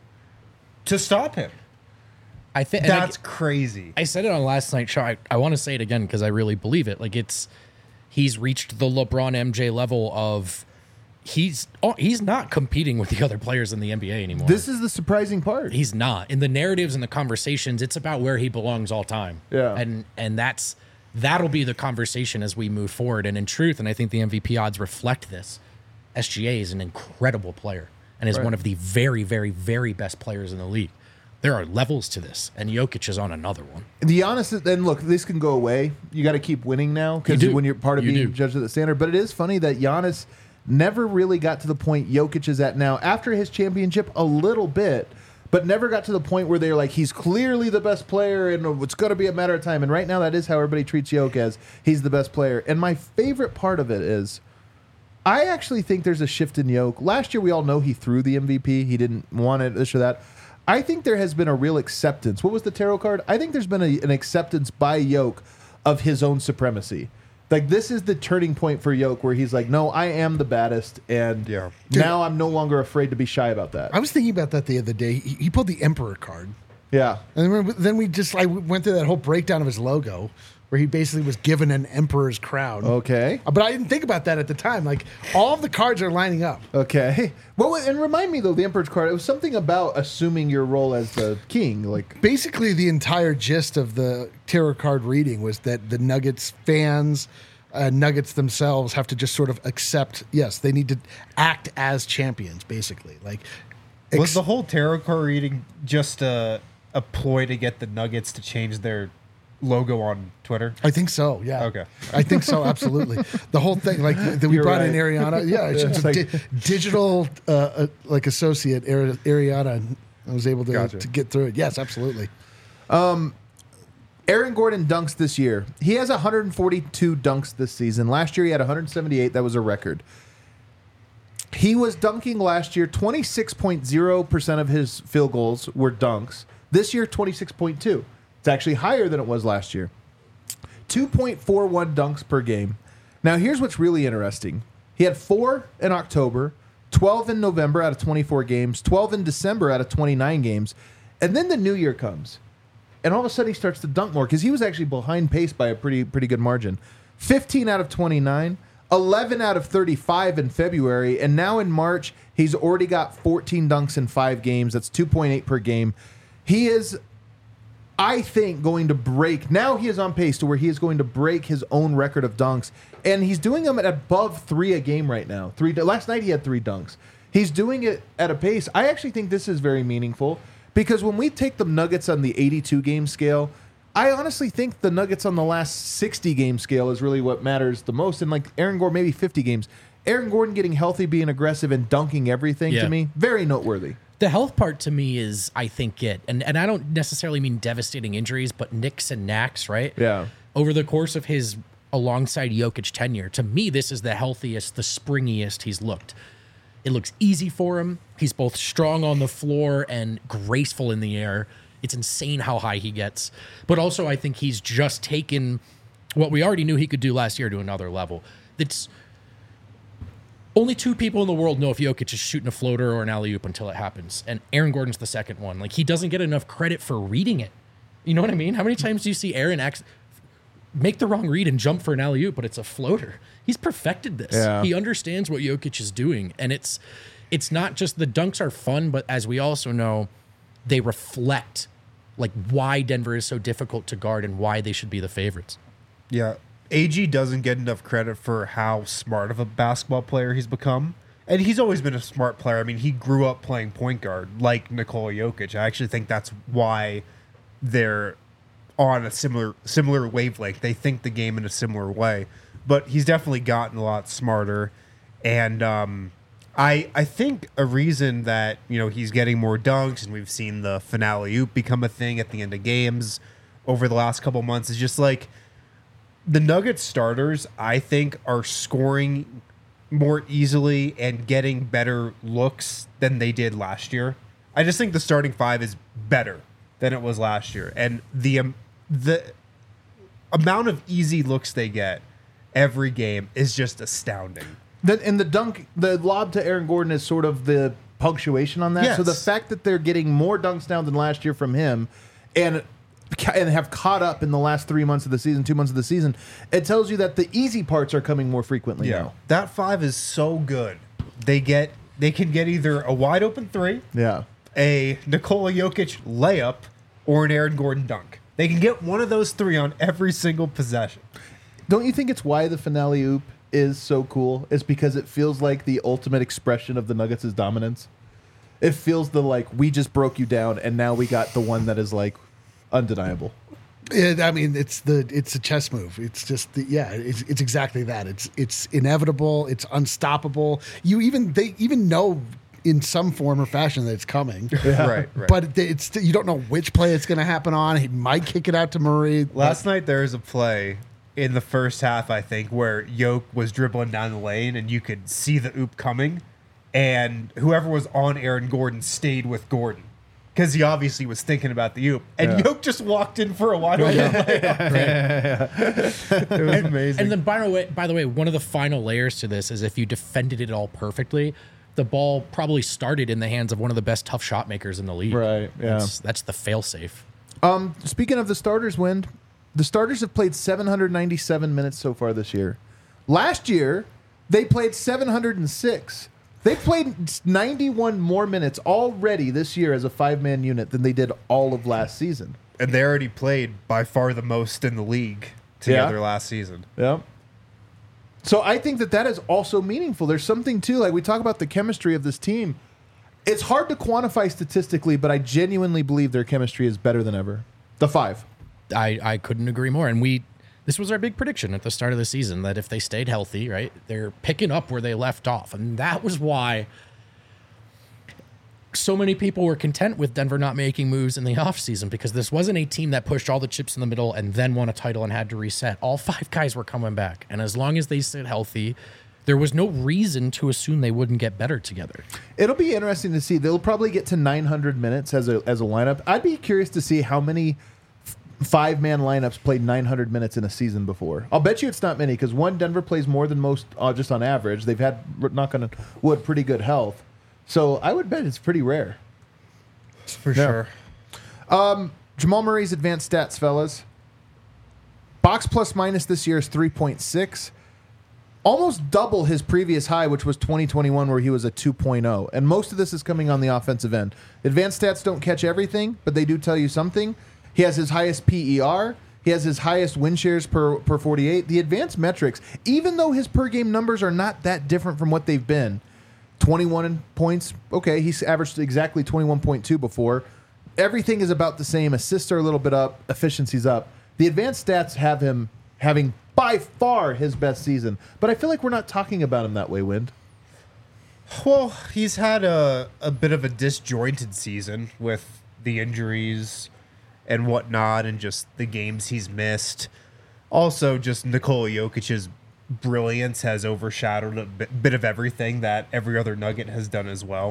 to stop him. I think That's crazy. I said it on last night's show. I, I want to say it again because I really believe it. Like it's, he's reached the LeBron M J level of he's oh, he's not competing with the other players in the N B A anymore. This is the surprising part. He's not in the narratives and the conversations. It's about where he belongs all time. Yeah. and and that's that'll be the conversation as we move forward. And in truth, and I think the M V P odds reflect this. S G A is an incredible player and is Right. one of the very, very, very best players in the league. There are levels to this, and Jokic is on another one. The honest, and look, this can go away. You got to keep winning now because You do. when you're part of You being do. judged at the standard. But it is funny that Giannis never really got to the point Jokic is at now after his championship a little bit, but never got to the point where they're like, he's clearly the best player and it's going to be a matter of time. And right now, that is how everybody treats Jokic, as he's the best player. And my favorite part of it is I actually think there's a shift in Jokic. Last year, we all know he threw the M V P. He didn't want it, this or that. I think there has been a real acceptance. What was the tarot card? I think there's been a, an acceptance by Jokic of his own supremacy. Like, this is the turning point for Jokic where he's like, no, I am the baddest, and Yeah. now I'm no longer afraid to be shy about that. I was thinking about that the other day. He, he pulled the Emperor card. Yeah. And then, then we just like went through that whole breakdown of his logo where he basically was given an emperor's crown. Okay. But I didn't think about that at the time. Like all of the cards are lining up. Okay. Well, and remind me, though, the Emperor's card, it was something about assuming your role as the king. Like, Basically, the entire gist of the tarot card reading was that the Nuggets fans, uh, Nuggets themselves, have to just sort of accept. Yes, they need to act as champions. Basically, like Was ex- the whole tarot card reading just a, a ploy to get the Nuggets to change their logo on Twitter? I think so. Yeah. Okay. I think so. Absolutely. The whole thing, like that we You're brought right. in Ariana. Yeah, it's It's a like- di- digital uh, uh, like associate Ari- Ariana. I was able to Gotcha. to get through it. Yes, absolutely. Aaron Gordon dunks this year. He has one hundred forty-two dunks this season. Last year, he had one hundred seventy-eight. That was a record. He was dunking last year. twenty-six point zero percent of his field goals were dunks. This year, twenty-six point two. It's actually higher than it was last year. two point four one dunks per game. Now, here's what's really interesting. He had four in October, twelve in November out of twenty-four games, twelve in December out of twenty-nine games, and then the new year comes. And all of a sudden, he starts to dunk more because he was actually behind pace by a pretty pretty good margin. fifteen out of twenty-nine, eleven out of thirty-five in February, and now in March, he's already got fourteen dunks in five games. That's two point eight per game. He is, I think, going to break. Now he is on pace to where he is going to break his own record of dunks, and he's doing them at above three a game right now. Three. Last night he had three dunks. He's doing it at a pace. I actually think this is very meaningful because when we take the Nuggets on the eighty-two game scale, I honestly think the Nuggets on the last sixty game scale is really what matters the most. And like Aaron Gordon, maybe fifty games. Aaron Gordon getting healthy, being aggressive, and dunking everything Yeah. to me, very noteworthy. The health part to me is, I think, it. And, and I don't necessarily mean devastating injuries, but nicks and knacks, right? Yeah. Over the course of his alongside Jokic tenure, to me, this is the healthiest, the springiest he's looked. It looks easy for him. He's both strong on the floor and graceful in the air. It's insane how high he gets. But also, I think he's just taken what we already knew he could do last year to another level. It's only two people in the world know if Jokic is shooting a floater or an alley-oop until it happens. And Aaron Gordon's the second one. Like, he doesn't get enough credit for reading it. You know what I mean? How many times do you see Aaron act, make the wrong read and jump for an alley-oop, but it's a floater? He's perfected this. Yeah. He understands what Jokic is doing. And it's it's not just the dunks are fun, but as we also know, they reflect like why Denver is so difficult to guard and why they should be the favorites. Yeah. A G doesn't get enough credit for how smart of a basketball player he's become. And he's always been a smart player. I mean, he grew up playing point guard like Nikola Jokic. I actually think that's why they're on a similar similar wavelength. They think the game in a similar way. But he's definitely gotten a lot smarter. And um, I I think a reason that, you know, he's getting more dunks and we've seen the finale oop become a thing at the end of games over the last couple months is just like the Nuggets starters, I think, are scoring more easily and getting better looks than they did last year. I just think the starting five is better than it was last year. And the um, the amount of easy looks they get every game is just astounding. The, and the dunk, the lob to Aaron Gordon is sort of the punctuation on that. Yes. So the fact that they're getting more dunks now than last year from him and and have caught up in the last three months of the season, two months of the season, it tells you that the easy parts are coming more frequently now. That five is so good. They get they can get either a wide open three, Yeah. a Nikola Jokic layup, or an Aaron Gordon dunk. They can get one of those three on every single possession. Don't you think it's why the finale oop is so cool? It's because it feels like the ultimate expression of the Nuggets' dominance. It feels the like, we just broke you down, and now we got the one that is like undeniable. It, I mean, it's the it's a chess move. It's just the, yeah, it's it's exactly that. It's it's inevitable. It's unstoppable. You even they even know in some form or fashion that it's coming. Right, right. But it's you don't know which play it's going to happen on. He might kick it out to Murray. Last night there was a play in the first half, I think, where Yoke was dribbling down the lane and you could see the oop coming, and whoever was on Aaron Gordon stayed with Gordon because he obviously was thinking about the oop, and Yeah. Yoke just walked in for a wide open layup. It was amazing. And then, by the way, by the way, one of the final layers to this is if you defended it all perfectly, the ball probably started in the hands of one of the best tough shot makers in the league. Right, yeah. That's, that's the failsafe. Um, speaking of the starters, Wind, the starters have played seven hundred ninety-seven minutes so far this year. Last year, they played seven hundred six. They've played ninety-one more minutes already this year as a five-man unit than they did all of last season. and they already played by far the most in the league together Yeah. last season. Yeah. So I think that that is also meaningful. There's something too, like we talk about the chemistry of this team. It's hard to quantify statistically, but I genuinely believe their chemistry is better than ever. The five. I, I couldn't agree more. And we, this was our big prediction at the start of the season that if they stayed healthy, right, they're picking up where they left off. And that was why so many people were content with Denver not making moves in the offseason, because this wasn't a team that pushed all the chips in the middle and then won a title and had to reset. All five guys were coming back. And as long as they stayed healthy, there was no reason to assume they wouldn't get better together. It'll be interesting to see. They'll probably get to nine hundred minutes as a as a lineup. I'd be curious to see how many five-man lineups played nine hundred minutes in a season before. I'll bet you it's not many because, one, Denver plays more than most uh, just on average. They've had, knock on wood, pretty good health. So I would bet it's pretty rare. For Yeah. sure. Um, Jamal Murray's advanced stats, fellas. Box plus minus this year is three point six. Almost double his previous high, which was twenty twenty-one, where he was a two point oh. And most of this is coming on the offensive end. Advanced stats don't catch everything, but they do tell you something. He has his highest P E R. He has his highest win shares per, per forty-eight. The advanced metrics, even though his per game numbers are not that different from what they've been, twenty-one points, okay, he's averaged exactly twenty-one point two before. Everything is about the same. Assists are a little bit up. Efficiency's up. The advanced stats have him having by far his best season. But I feel like we're not talking about him that way, Wind. Well, he's had a, a bit of a disjointed season with the injuries and whatnot and just the games he's missed. Also, just Nikola Jokic's brilliance has overshadowed a bit, bit of everything that every other Nugget has done as well.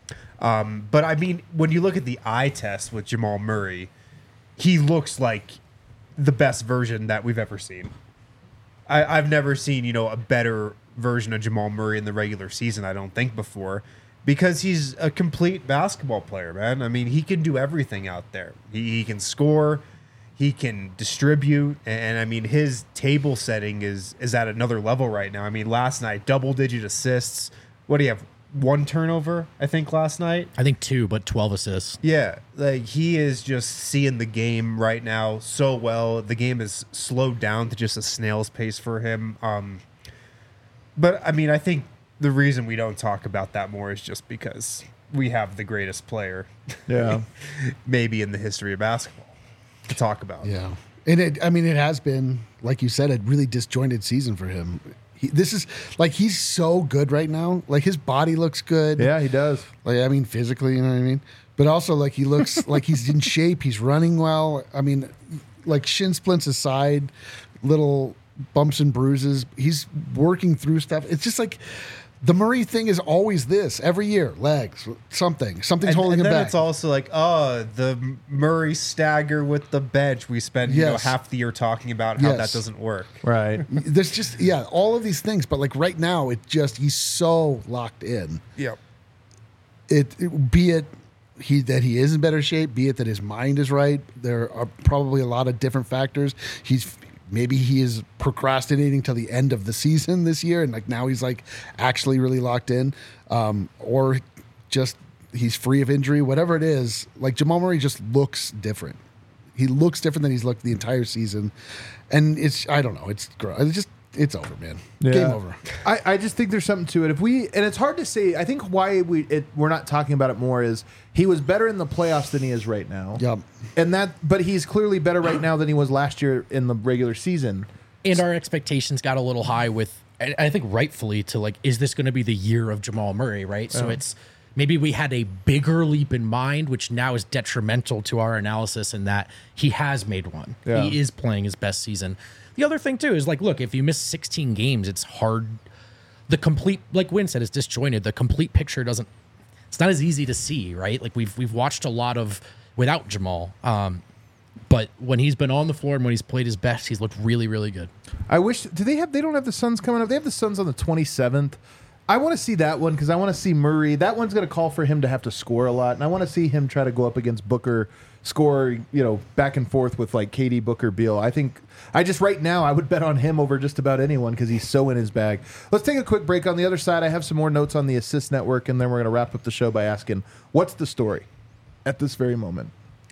Um, but, I mean, when you look at the eye test with Jamal Murray, he looks like the best version that we've ever seen. I, I've never seen, you know, a better version of Jamal Murray in the regular season, I don't think, before, because he's a complete basketball player, man. I mean, he can do everything out there. He, he can score, he can distribute, and, and I mean, his table setting is is at another level right now. I mean, last night, double-digit assists. What do you have? One turnover, I think, last night? I think two, but twelve assists. Yeah, like he is just seeing the game right now so well. The game is slowed down to just a snail's pace for him. Um, but I mean, I think the reason we don't talk about that more is just because we have the greatest player, Yeah. maybe in the history of basketball, to talk about. Yeah. And it, I mean, it has been, like you said, a really disjointed season for him. He, this is like, he's so good right now. Like, his body looks good. Yeah, he does. Like, I mean, physically, you know what I mean? But also, like, he looks like he's in shape. He's running well. I mean, like, shin splints aside, little bumps and bruises. He's working through stuff. It's just like, the Murray thing is always this every year. Legs, something, something's And, holding and him then back. it's also like, oh, the Murray stagger with the bench. We spend you know Yes. half the year talking about how Yes. that doesn't work. Right. There's just, yeah, all of these things. But like right now, it just, he's so locked in. Yep. It, it be it he that he is in better shape, be it that his mind is right. There are probably a lot of different factors. He's maybe he is procrastinating till the end of the season this year, and like now he's like actually really locked in, um, or just he's free of injury. Whatever it is, like Jamal Murray just looks different. He looks different than he's looked the entire season, and it's I don't know. It's gr- it's just it's over, man. Game Yeah. over. I, I just think there's something to it. If we and it's hard to say. I think why we it, we're not talking about it more is he was better in the playoffs than he is right now. Yep. And that, but he's clearly better right now than he was last year in the regular season. And our expectations got a little high with, and I think rightfully, to like, is this going to be the year of Jamal Murray, right? So it's maybe we had a bigger leap in mind, which now is detrimental to our analysis in that he has made one. Yeah. He is playing his best season. The other thing, too, is like, look, if you miss sixteen games, it's hard. The complete, like Wynn said, it's disjointed. The complete picture doesn't, it's not as easy to see, right? Like we've we've watched a lot of without Jamal. Um, but when he's been on the floor and when he's played his best, he's looked really, really good. I wish. Do they have? They don't have the Suns coming up. They have the Suns on the twenty-seventh. I want to see that one because I want to see Murray. That one's going to call for him to have to score a lot, and I want to see him try to go up against Booker, score, you know, back and forth with like K D, Booker, Beal. I think I just right now I would bet on him over just about anyone because he's so in his bag. Let's take a quick break. On the other side, I have some more notes on the assist network, and then we're going to wrap up the show by asking, what's the story at this very moment?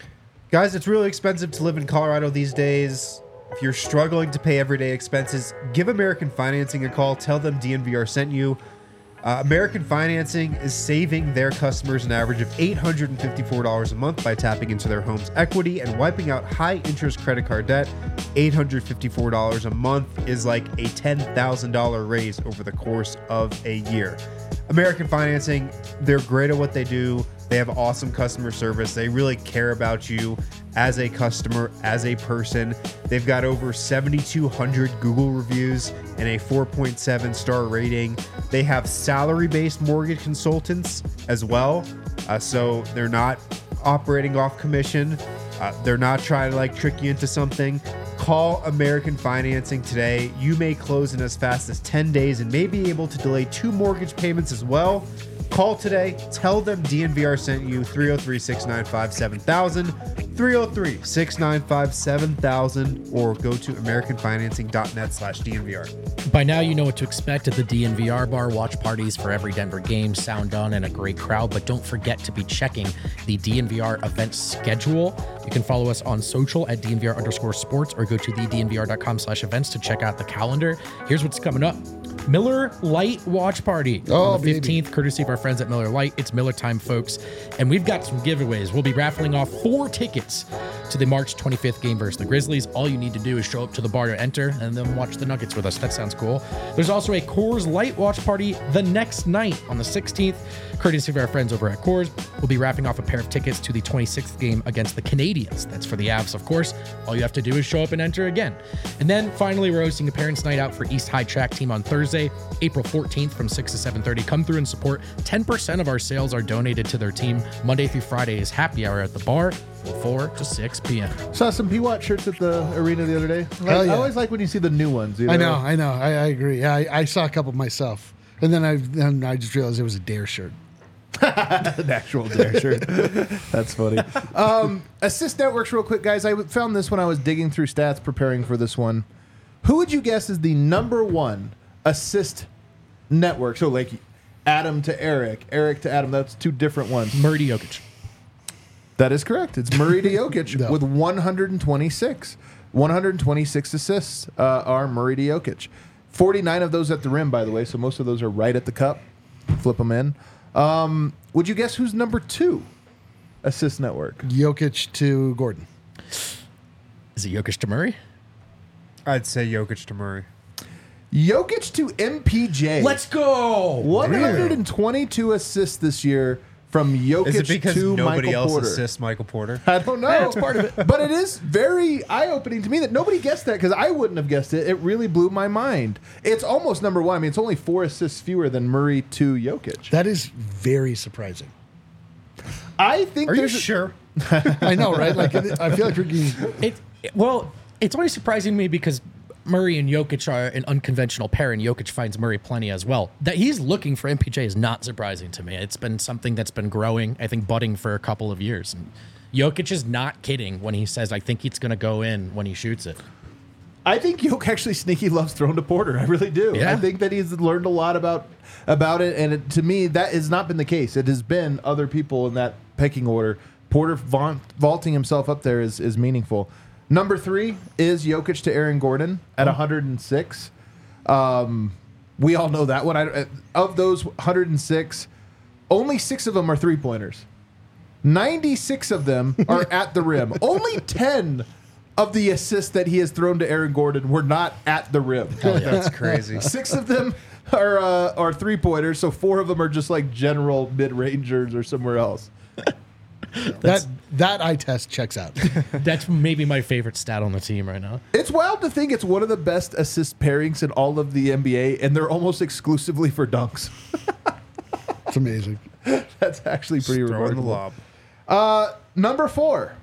Guys, it's really expensive to live in Colorado these days. If you're struggling to pay everyday expenses, give American Financing a call. Tell them D N V R sent you. Uh, American Financing is saving their customers an average of eight hundred fifty-four dollars a month by tapping into their home's equity and wiping out high-interest credit card debt. eight hundred fifty-four dollars a month is like a ten thousand dollars raise over the course of a year. American Financing, they're great at what they do. They have awesome customer service. They really care about you as a customer, as a person. They've got over seventy-two hundred Google reviews and a four point seven star rating. They have salary-based mortgage consultants as well. Uh, so they're not operating off commission. Uh, they're not trying to like trick you into something. Call American Financing today. You may close in as fast as ten days and may be able to delay two mortgage payments as well. Call today. Tell them D N V R sent you. three oh three, six nine five, seven thousand. three oh three, six nine five, seven thousand. Or go to american financing dot net slash D N V R. By now, you know what to expect at the D N V R bar. Watch parties for every Denver game, sound done, and a great crowd. But don't forget to be checking the D N V R event schedule. You can follow us on social at D N V R underscore sports or go to the D N V R dot com slash events to check out the calendar. Here's what's coming up. Miller Lite Watch Party Oh, on the fifteenth, baby. Courtesy of our friends at Miller Lite. It's Miller time, folks. And we've got some giveaways. We'll be raffling off four tickets to the March twenty-fifth game versus the Grizzlies. All you need to do is show up to the bar to enter and then watch the Nuggets with us. That sounds cool. There's also a Coors Light Watch Party the next night on the sixteenth. Courtesy of our friends over at Coors. We'll be wrapping off a pair of tickets to the twenty-sixth game against the Canadians. That's for the Avs, of course. All you have to do is show up and enter again. And then finally, we're hosting a parents' night out for East High Track Team on Thursday, April fourteenth from six to seven thirty. Come through and support. ten percent of our sales are donated to their team. Monday through Friday is happy hour at the bar from four to six p.m. Saw some P W A T shirts at the arena the other day. Like, Hell yeah. I always like when you see the new ones. You know? I know, I know. I, I agree. Yeah, I, I saw a couple myself. And then I then I just realized it was a Dare shirt. An actual Dare shirt. That's funny. Um, assist networks, real quick, guys. I found this when I was digging through stats preparing for this one. Who would you guess is the number one assist network? So, like Adam to Eric, Eric to Adam. That's two different ones. Murray to Jokic. That is correct. It's Murray to Jokic No. with one hundred twenty-six. one hundred twenty-six assists uh, are Murray to Jokic. forty-nine of those at the rim, by the way. So most of those are right at the cup. Flip them in. Um, would you guess who's number two assist network? Jokic to Gordon. Is it Jokic to Murray? I'd say Jokic to Murray. Jokic to M P J. Let's go. one hundred twenty-two assists this year from Jokic Is it because to nobody Michael else Porter. assists Michael Porter? I don't know. That's part of it. But it is very eye-opening to me that nobody guessed that because I wouldn't have guessed it. It really blew my mind. It's almost number one. I mean, it's only four assists fewer than Murray to Jokic. That is very surprising. I think Are you there's a- sure? I know, right? Like I feel like we're getting It, it- well, it's only surprising to me because Murray and Jokic are an unconventional pair, and Jokic finds Murray plenty as well. That he's looking for M P J is not surprising to me. It's been something that's been growing, I think, budding for a couple of years. And Jokic is not kidding when he says, "I think it's going to go in when he shoots it." I think Jokic actually sneaky loves throwing to Porter. I really do. Yeah. I think that he's learned a lot about about it, and it, to me, that has not been the case. It has been other people in that pecking order. Porter vaunt, vaulting himself up there is, is meaningful. Number three is Jokic to Aaron Gordon at one hundred six. Um, we all know that one. I, of those one hundred six, only six of them are three-pointers. ninety-six of them are at the rim. Only ten of the assists that he has thrown to Aaron Gordon were not at the rim. That's crazy. Six of them are uh, are three pointers, so four of them are just like general mid rangers or somewhere else. that that eye test checks out. That's maybe my favorite stat on the team right now. It's wild to think it's one of the best assist pairings in all of the N B A, and they're almost exclusively for dunks. It's amazing. That's actually pretty Just throwing the remarkable. lob. Uh, number four,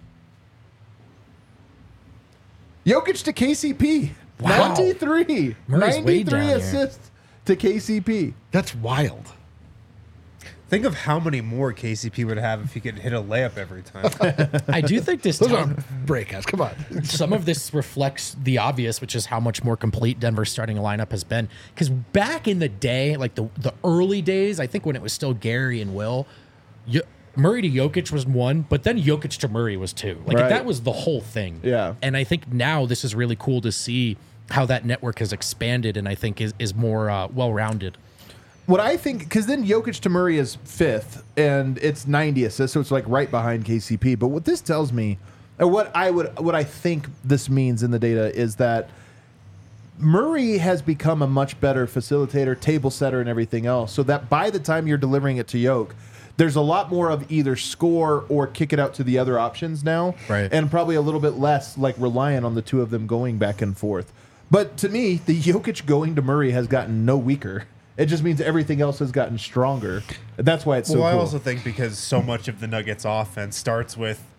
Jokic to K C P. Wow. ninety-three. Murray's way down ninety-three here. assists to K C P. That's wild. Think of how many more K C P would have if he could hit a layup every time. I do think this Those time, are breakouts. Come on. some of this reflects the obvious, which is how much more complete Denver's starting lineup has been. Because back in the day, like the, the early days, I think when it was still Gary and Will, Yo- Murray to Jokic was one, but then Jokic to Murray was two. Like Right. that was the whole thing. Yeah. And I think now this is really cool to see how that network has expanded and I think is, is more uh, well-rounded. What I think, because then Jokic to Murray is fifth, and it's ninety assists, so it's like right behind K C P. But what this tells me, or what I would, what I think this means in the data is that Murray has become a much better facilitator, table setter, and everything else. So that by the time you're delivering it to Jokic, there's a lot more of either score or kick it out to the other options now, Right. and probably a little bit less like reliant on the two of them going back and forth. But to me, the Jokic going to Murray has gotten no weaker. It just means everything else has gotten stronger. That's why it's so well, I cool. also think because so much of the Nuggets offense starts with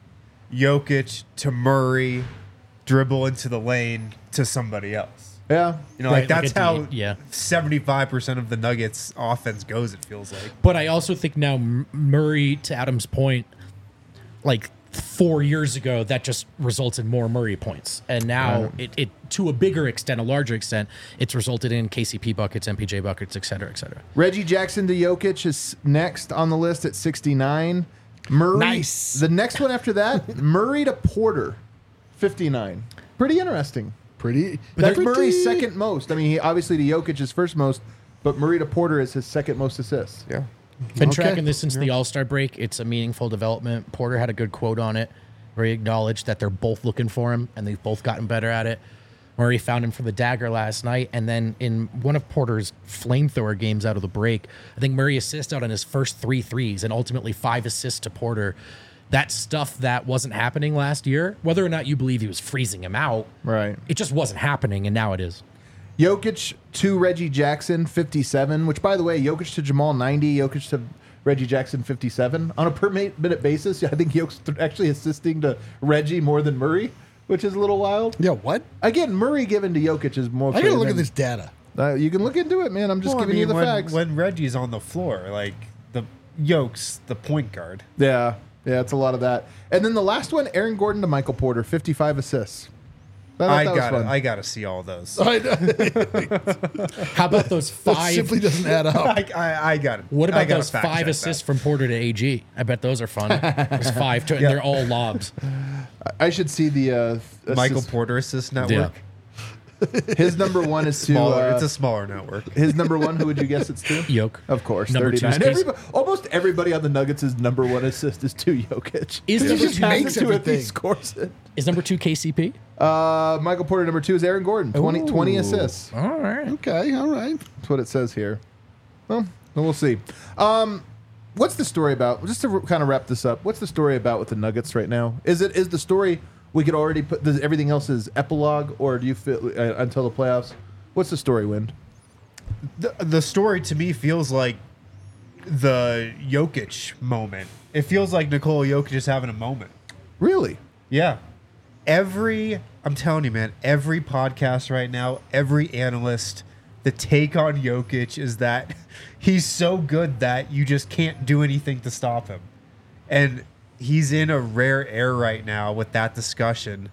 Jokic to Murray, dribble into the lane to somebody else. Yeah. You know, Right, like like that's a how D- yeah. seventy-five percent of the Nuggets offense goes, it feels like. But I also think now M- Murray, to Adam's point, like four years ago, that just results in more Murray points. And now it, it, to a bigger extent, a larger extent, it's resulted in K C P buckets, M P J buckets, et cetera, et cetera. Reggie Jackson to Jokic is next on the list at sixty-nine. Murray. Nice. The next one after that, Murray to Porter, fifty-nine. Pretty interesting. Pretty. That's pretty- Murray's second most. I mean, he, obviously to Jokic is first most, but Murray to Porter is his second most assists. Yeah. Been Okay. tracking this since the All Star break. It's a meaningful development. Porter had a good quote on it where he acknowledged that they're both looking for him and they've both gotten better at it. Murray found him for the dagger last night. And then in one of Porter's flamethrower games out of the break, I think Murray assisted out on his first three threes and ultimately five assists to Porter. That's stuff that wasn't happening last year. Whether or not you believe he was freezing him out, Right. it just wasn't happening, and now it is. Jokic to Reggie Jackson, fifty-seven, which, by the way, Jokic to Jamal, ninety, Jokic to Reggie Jackson, fifty-seven. On a per ma- minute basis, I think Jokic's actually assisting to Reggie more than Murray, which is a little wild. Yeah, what? Again, Murray given to Jokic is more. I gotta look than- at this data. Uh, you can look into it, man. I'm just Well, I giving you mean, the when, facts. when Reggie's on the floor, like the Yoke's the point guard. yeah, yeah, it's a lot of that. And then the last one, Aaron Gordon to Michael Porter, fifty-five assists. I thought I that was got fun. I got to see all those. I know. How about those That five? simply doesn't add up. I, I, I got it. What I about gotta those fact five check assists that. from Porter to A G? I bet those are fun. There's five, to, and Yeah. they're all lobs. I should see the uh, Michael assist- Porter Assist Network? His number one is to. Smaller. uh, it's a smaller network. his number one. Who would you guess it's to? Yoke. Of course, Number two thirty-nine. is Casey. Everybody, almost everybody on the Nuggets' number one assist is to Jokic. Is he number just two- has makes it to if he everything. scores it. Is number two K C P? Uh, Michael Porter number two is Aaron Gordon. twenty, twenty Ooh. assists. All right. Okay, all right. That's what it says here. Well, we'll see. Um, what's the story about? Just to kind of wrap this up, what's the story about with the Nuggets right now? Is it is the story we could already put? Does everything else is epilogue, or do you feel uh, until the playoffs? What's the story, Wind? The, the story to me feels like the Jokic moment. It feels like Nikola Jokic is having a moment. Really? Yeah. Every, I'm telling you, man, every podcast right now, every analyst, the take on Jokic is that he's so good that you just can't do anything to stop him. And he's in a rare air right now with that discussion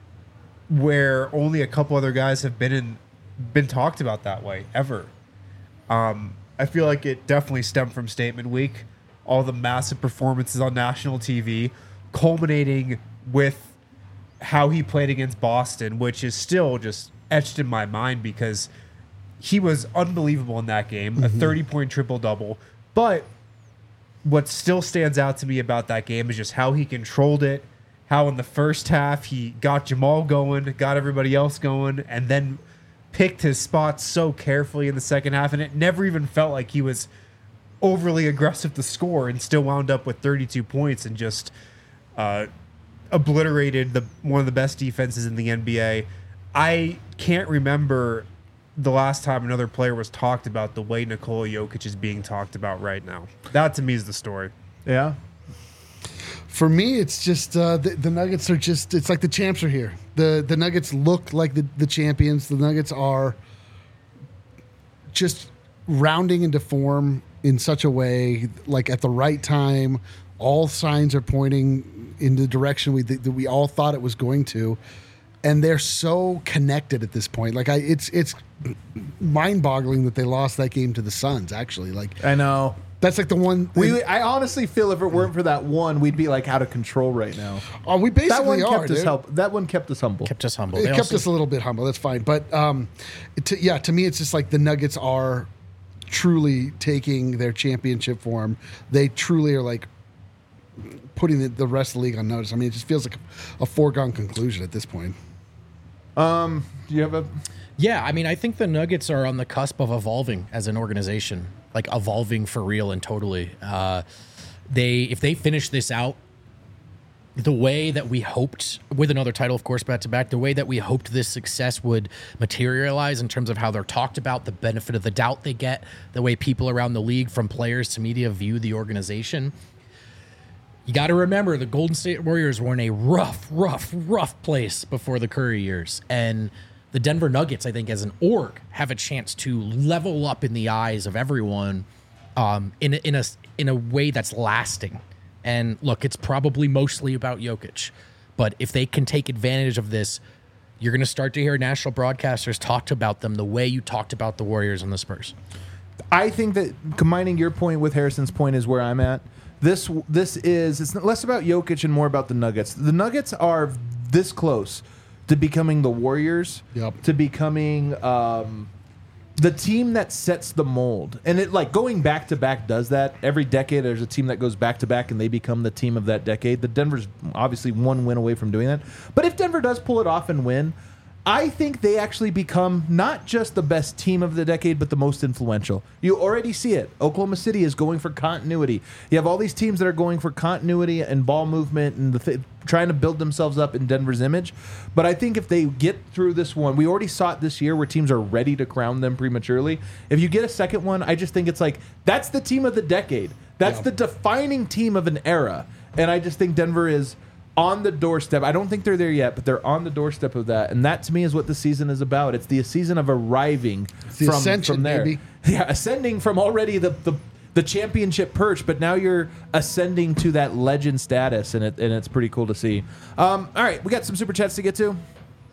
where only a couple other guys have been in, been talked about that way ever. Um, I feel like it definitely stemmed from Statement Week, all the massive performances on national T V, culminating with how he played against Boston, which is still just etched in my mind because he was unbelievable in that game, a thirty-point triple-double. But what still stands out to me about that game is just how he controlled it, how in the first half he got Jamal going, got everybody else going, and then picked his spots so carefully in the second half, and it never even felt like he was overly aggressive to score and still wound up with thirty-two points and just uh, obliterated the one of the best defenses in the N B A. I can't remember the last time another player was talked about the way Nikola Jokic is being talked about right now. That to me is the story. Yeah. For me, it's just uh, the, the Nuggets are just, it's like the champs are here. The the Nuggets look like the, the champions. The Nuggets are just rounding into form in such a way, like at the right time. All signs are pointing in the direction we that we all thought it was going to, and they're so connected at this point. Like I, it's it's mind-boggling that they lost that game to the Suns. Actually, like I know. that's like the one We, I honestly feel if it weren't for that one, we'd be like out of control right now. oh, we That one basically are. kept us dude. help. That one kept us humble. Kept us humble. It They kept also- us a little bit humble. That's fine. But um, it, to, yeah, to me, it's just like the Nuggets are truly taking their championship form. They truly are like putting the, the rest of the league on notice. I mean, it just feels like a, a foregone conclusion at this point. Um, do you have a? Yeah, I mean, I think the Nuggets are on the cusp of evolving as an organization, like evolving for real and totally. Uh, they, if they finish this out the way that we hoped, with another title, of course, back to back, the way that we hoped this success would materialize in terms of how they're talked about, the benefit of the doubt they get, the way people around the league, from players to media, view the organization. You got to remember the Golden State Warriors were in a rough, rough, rough place before the Curry years. And the Denver Nuggets, I think, as an org, have a chance to level up in the eyes of everyone um, in, a, in, a, in a way that's lasting. And look, it's probably mostly about Jokic. But if they can take advantage of this, you're going to start to hear national broadcasters talk about them the way you talked about the Warriors and the Spurs. I think that combining your point with Harrison's point is where I'm at. This this is it's less about Jokic and more about the Nuggets. The Nuggets are this close to becoming the Warriors, Yep. to becoming um, the team that sets the mold. And it like going back to back does that. Every decade there's a team that goes back to back and they become the team of that decade. The Denver's obviously one win away from doing that. But if Denver does pull it off and win, I think they actually become not just the best team of the decade, but the most influential. You already see it. Oklahoma City is going for continuity. You have all these teams that are going for continuity and ball movement and the th- trying to build themselves up in Denver's image. But I think if they get through this one, we already saw it this year where teams are ready to crown them prematurely. If you get a second one, I just think it's like, that's the team of the decade. That's Yeah. the defining team of an era. And I just think Denver is on the doorstep. I don't think they're there yet, but they're on the doorstep of that. And that to me is what the season is about. It's the season of arriving the from, ascension, from there. baby. Yeah, ascending from already the, the the championship perch, but now you're ascending to that legend status, and it and it's pretty cool to see. Um, all right, we got some super chats to get to.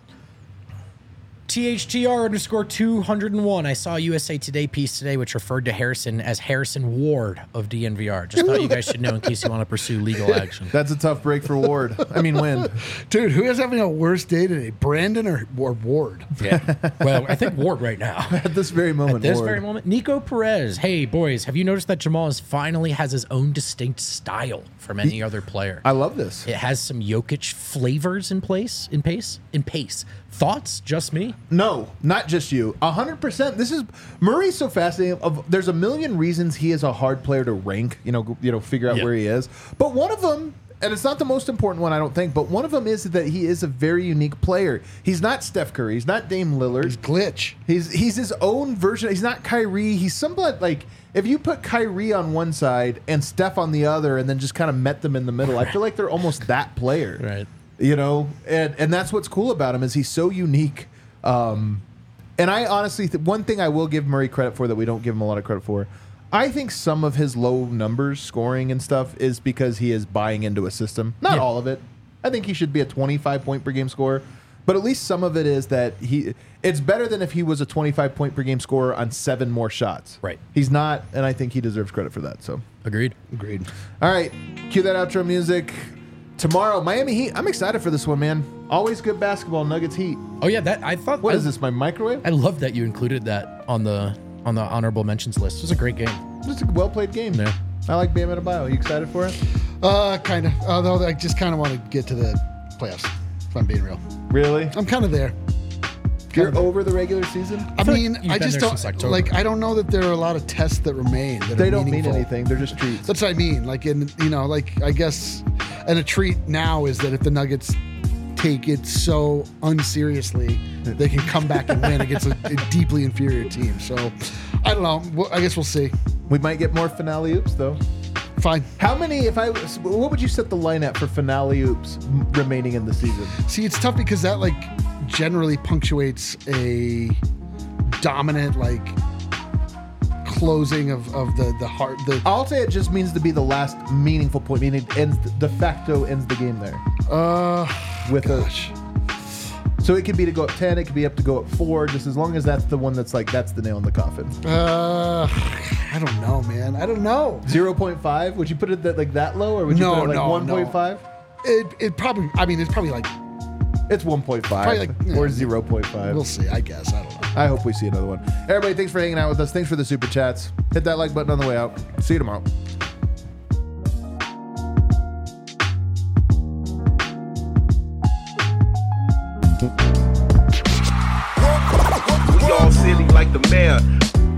T H T R underscore two hundred one. I saw a U S A Today piece today which referred to Harrison as Harrison Ward of D N V R. Just thought you guys should know in case you want to pursue legal action. That's a tough break for Ward. I mean, win. Dude, who is having a worse day today, Brandon or, or Ward? Yeah. Well, I think Ward right now. At this very moment, At this Ward. very moment. Nico Perez. Hey, boys, have you noticed that Jamal is finally has his own distinct style from any other player? I love this. It has some Jokic flavors in place, in pace, in pace. Thoughts? Just me? No, not just you. A hundred percent. This is Murray's so fascinating. Of there's a million reasons he is a hard player to rank. You know, you know, figure out Yeah. where he is. But one of them, and it's not the most important one, I don't think. But one of them is that he is a very unique player. He's not Steph Curry. He's not Dame Lillard. He's glitch. He's he's his own version. He's not Kyrie. He's somewhat like if you put Kyrie on one side and Steph on the other, and then just kind of met them in the middle. I feel like they're almost that player. Right. You know, and and that's what's cool about him is he's so unique. Um, and I honestly, th- one thing I will give Murray credit for that we don't give him a lot of credit for, I think some of his low numbers scoring and stuff is because he is buying into a system. Not Yeah. all of it. I think he should be a twenty-five point per game scorer, but at least some of it is that he. It's better than if he was a twenty-five point per game scorer on seven more shots. Right. He's not, and I think he deserves credit for that. So, Agreed. Agreed. all right, cue that outro music. Tomorrow, Miami Heat. I'm excited for this one, man. Always good basketball. Nuggets Heat. Oh yeah, that I thought. What I, is this? My microwave? I love that you included that on the on the honorable mentions list. It was a great game. Just a well played game. Yeah. I like Bam Adebayo. You excited for it? Uh, kind of. Although I just kind of want to get to the playoffs, if I'm being real. Really? I'm kind of there. You're over the regular season? I feel like mean, you've I been just there don't since October. like. I don't know that there are a lot of tests that remain. That They are don't mean meaningful. anything. They're just treats. That's what I mean. Like, in you know, like I guess, and a treat now is that if the Nuggets take it so unseriously, they can come back and win against a, a deeply inferior team. So, I don't know. Well, I guess we'll see. We might get more finale oops, though. Fine. How many, if I, what would you set the line at for finale oops remaining in the season? See, it's tough because that like generally punctuates a dominant like closing of, of the the heart the I'll say it just means to be the last meaningful point, meaning it ends, de facto ends the game there. uh With gosh. a, so it could be to go up ten, it could be up to go up four, just as long as that's the one that's like, that's the nail in the coffin. Uh I don't know, man. I don't know. zero point five? Would you put it that, like that low, or would you No, put it like no, one point five? It it probably I mean it's probably like It's one point five Probably like, yeah. or zero point five. we'll see, I guess. I don't know. I hope we see another one. Everybody, thanks for hanging out with us. Thanks for the super chats. Hit that like button on the way out. See you tomorrow. We all silly like the mayor.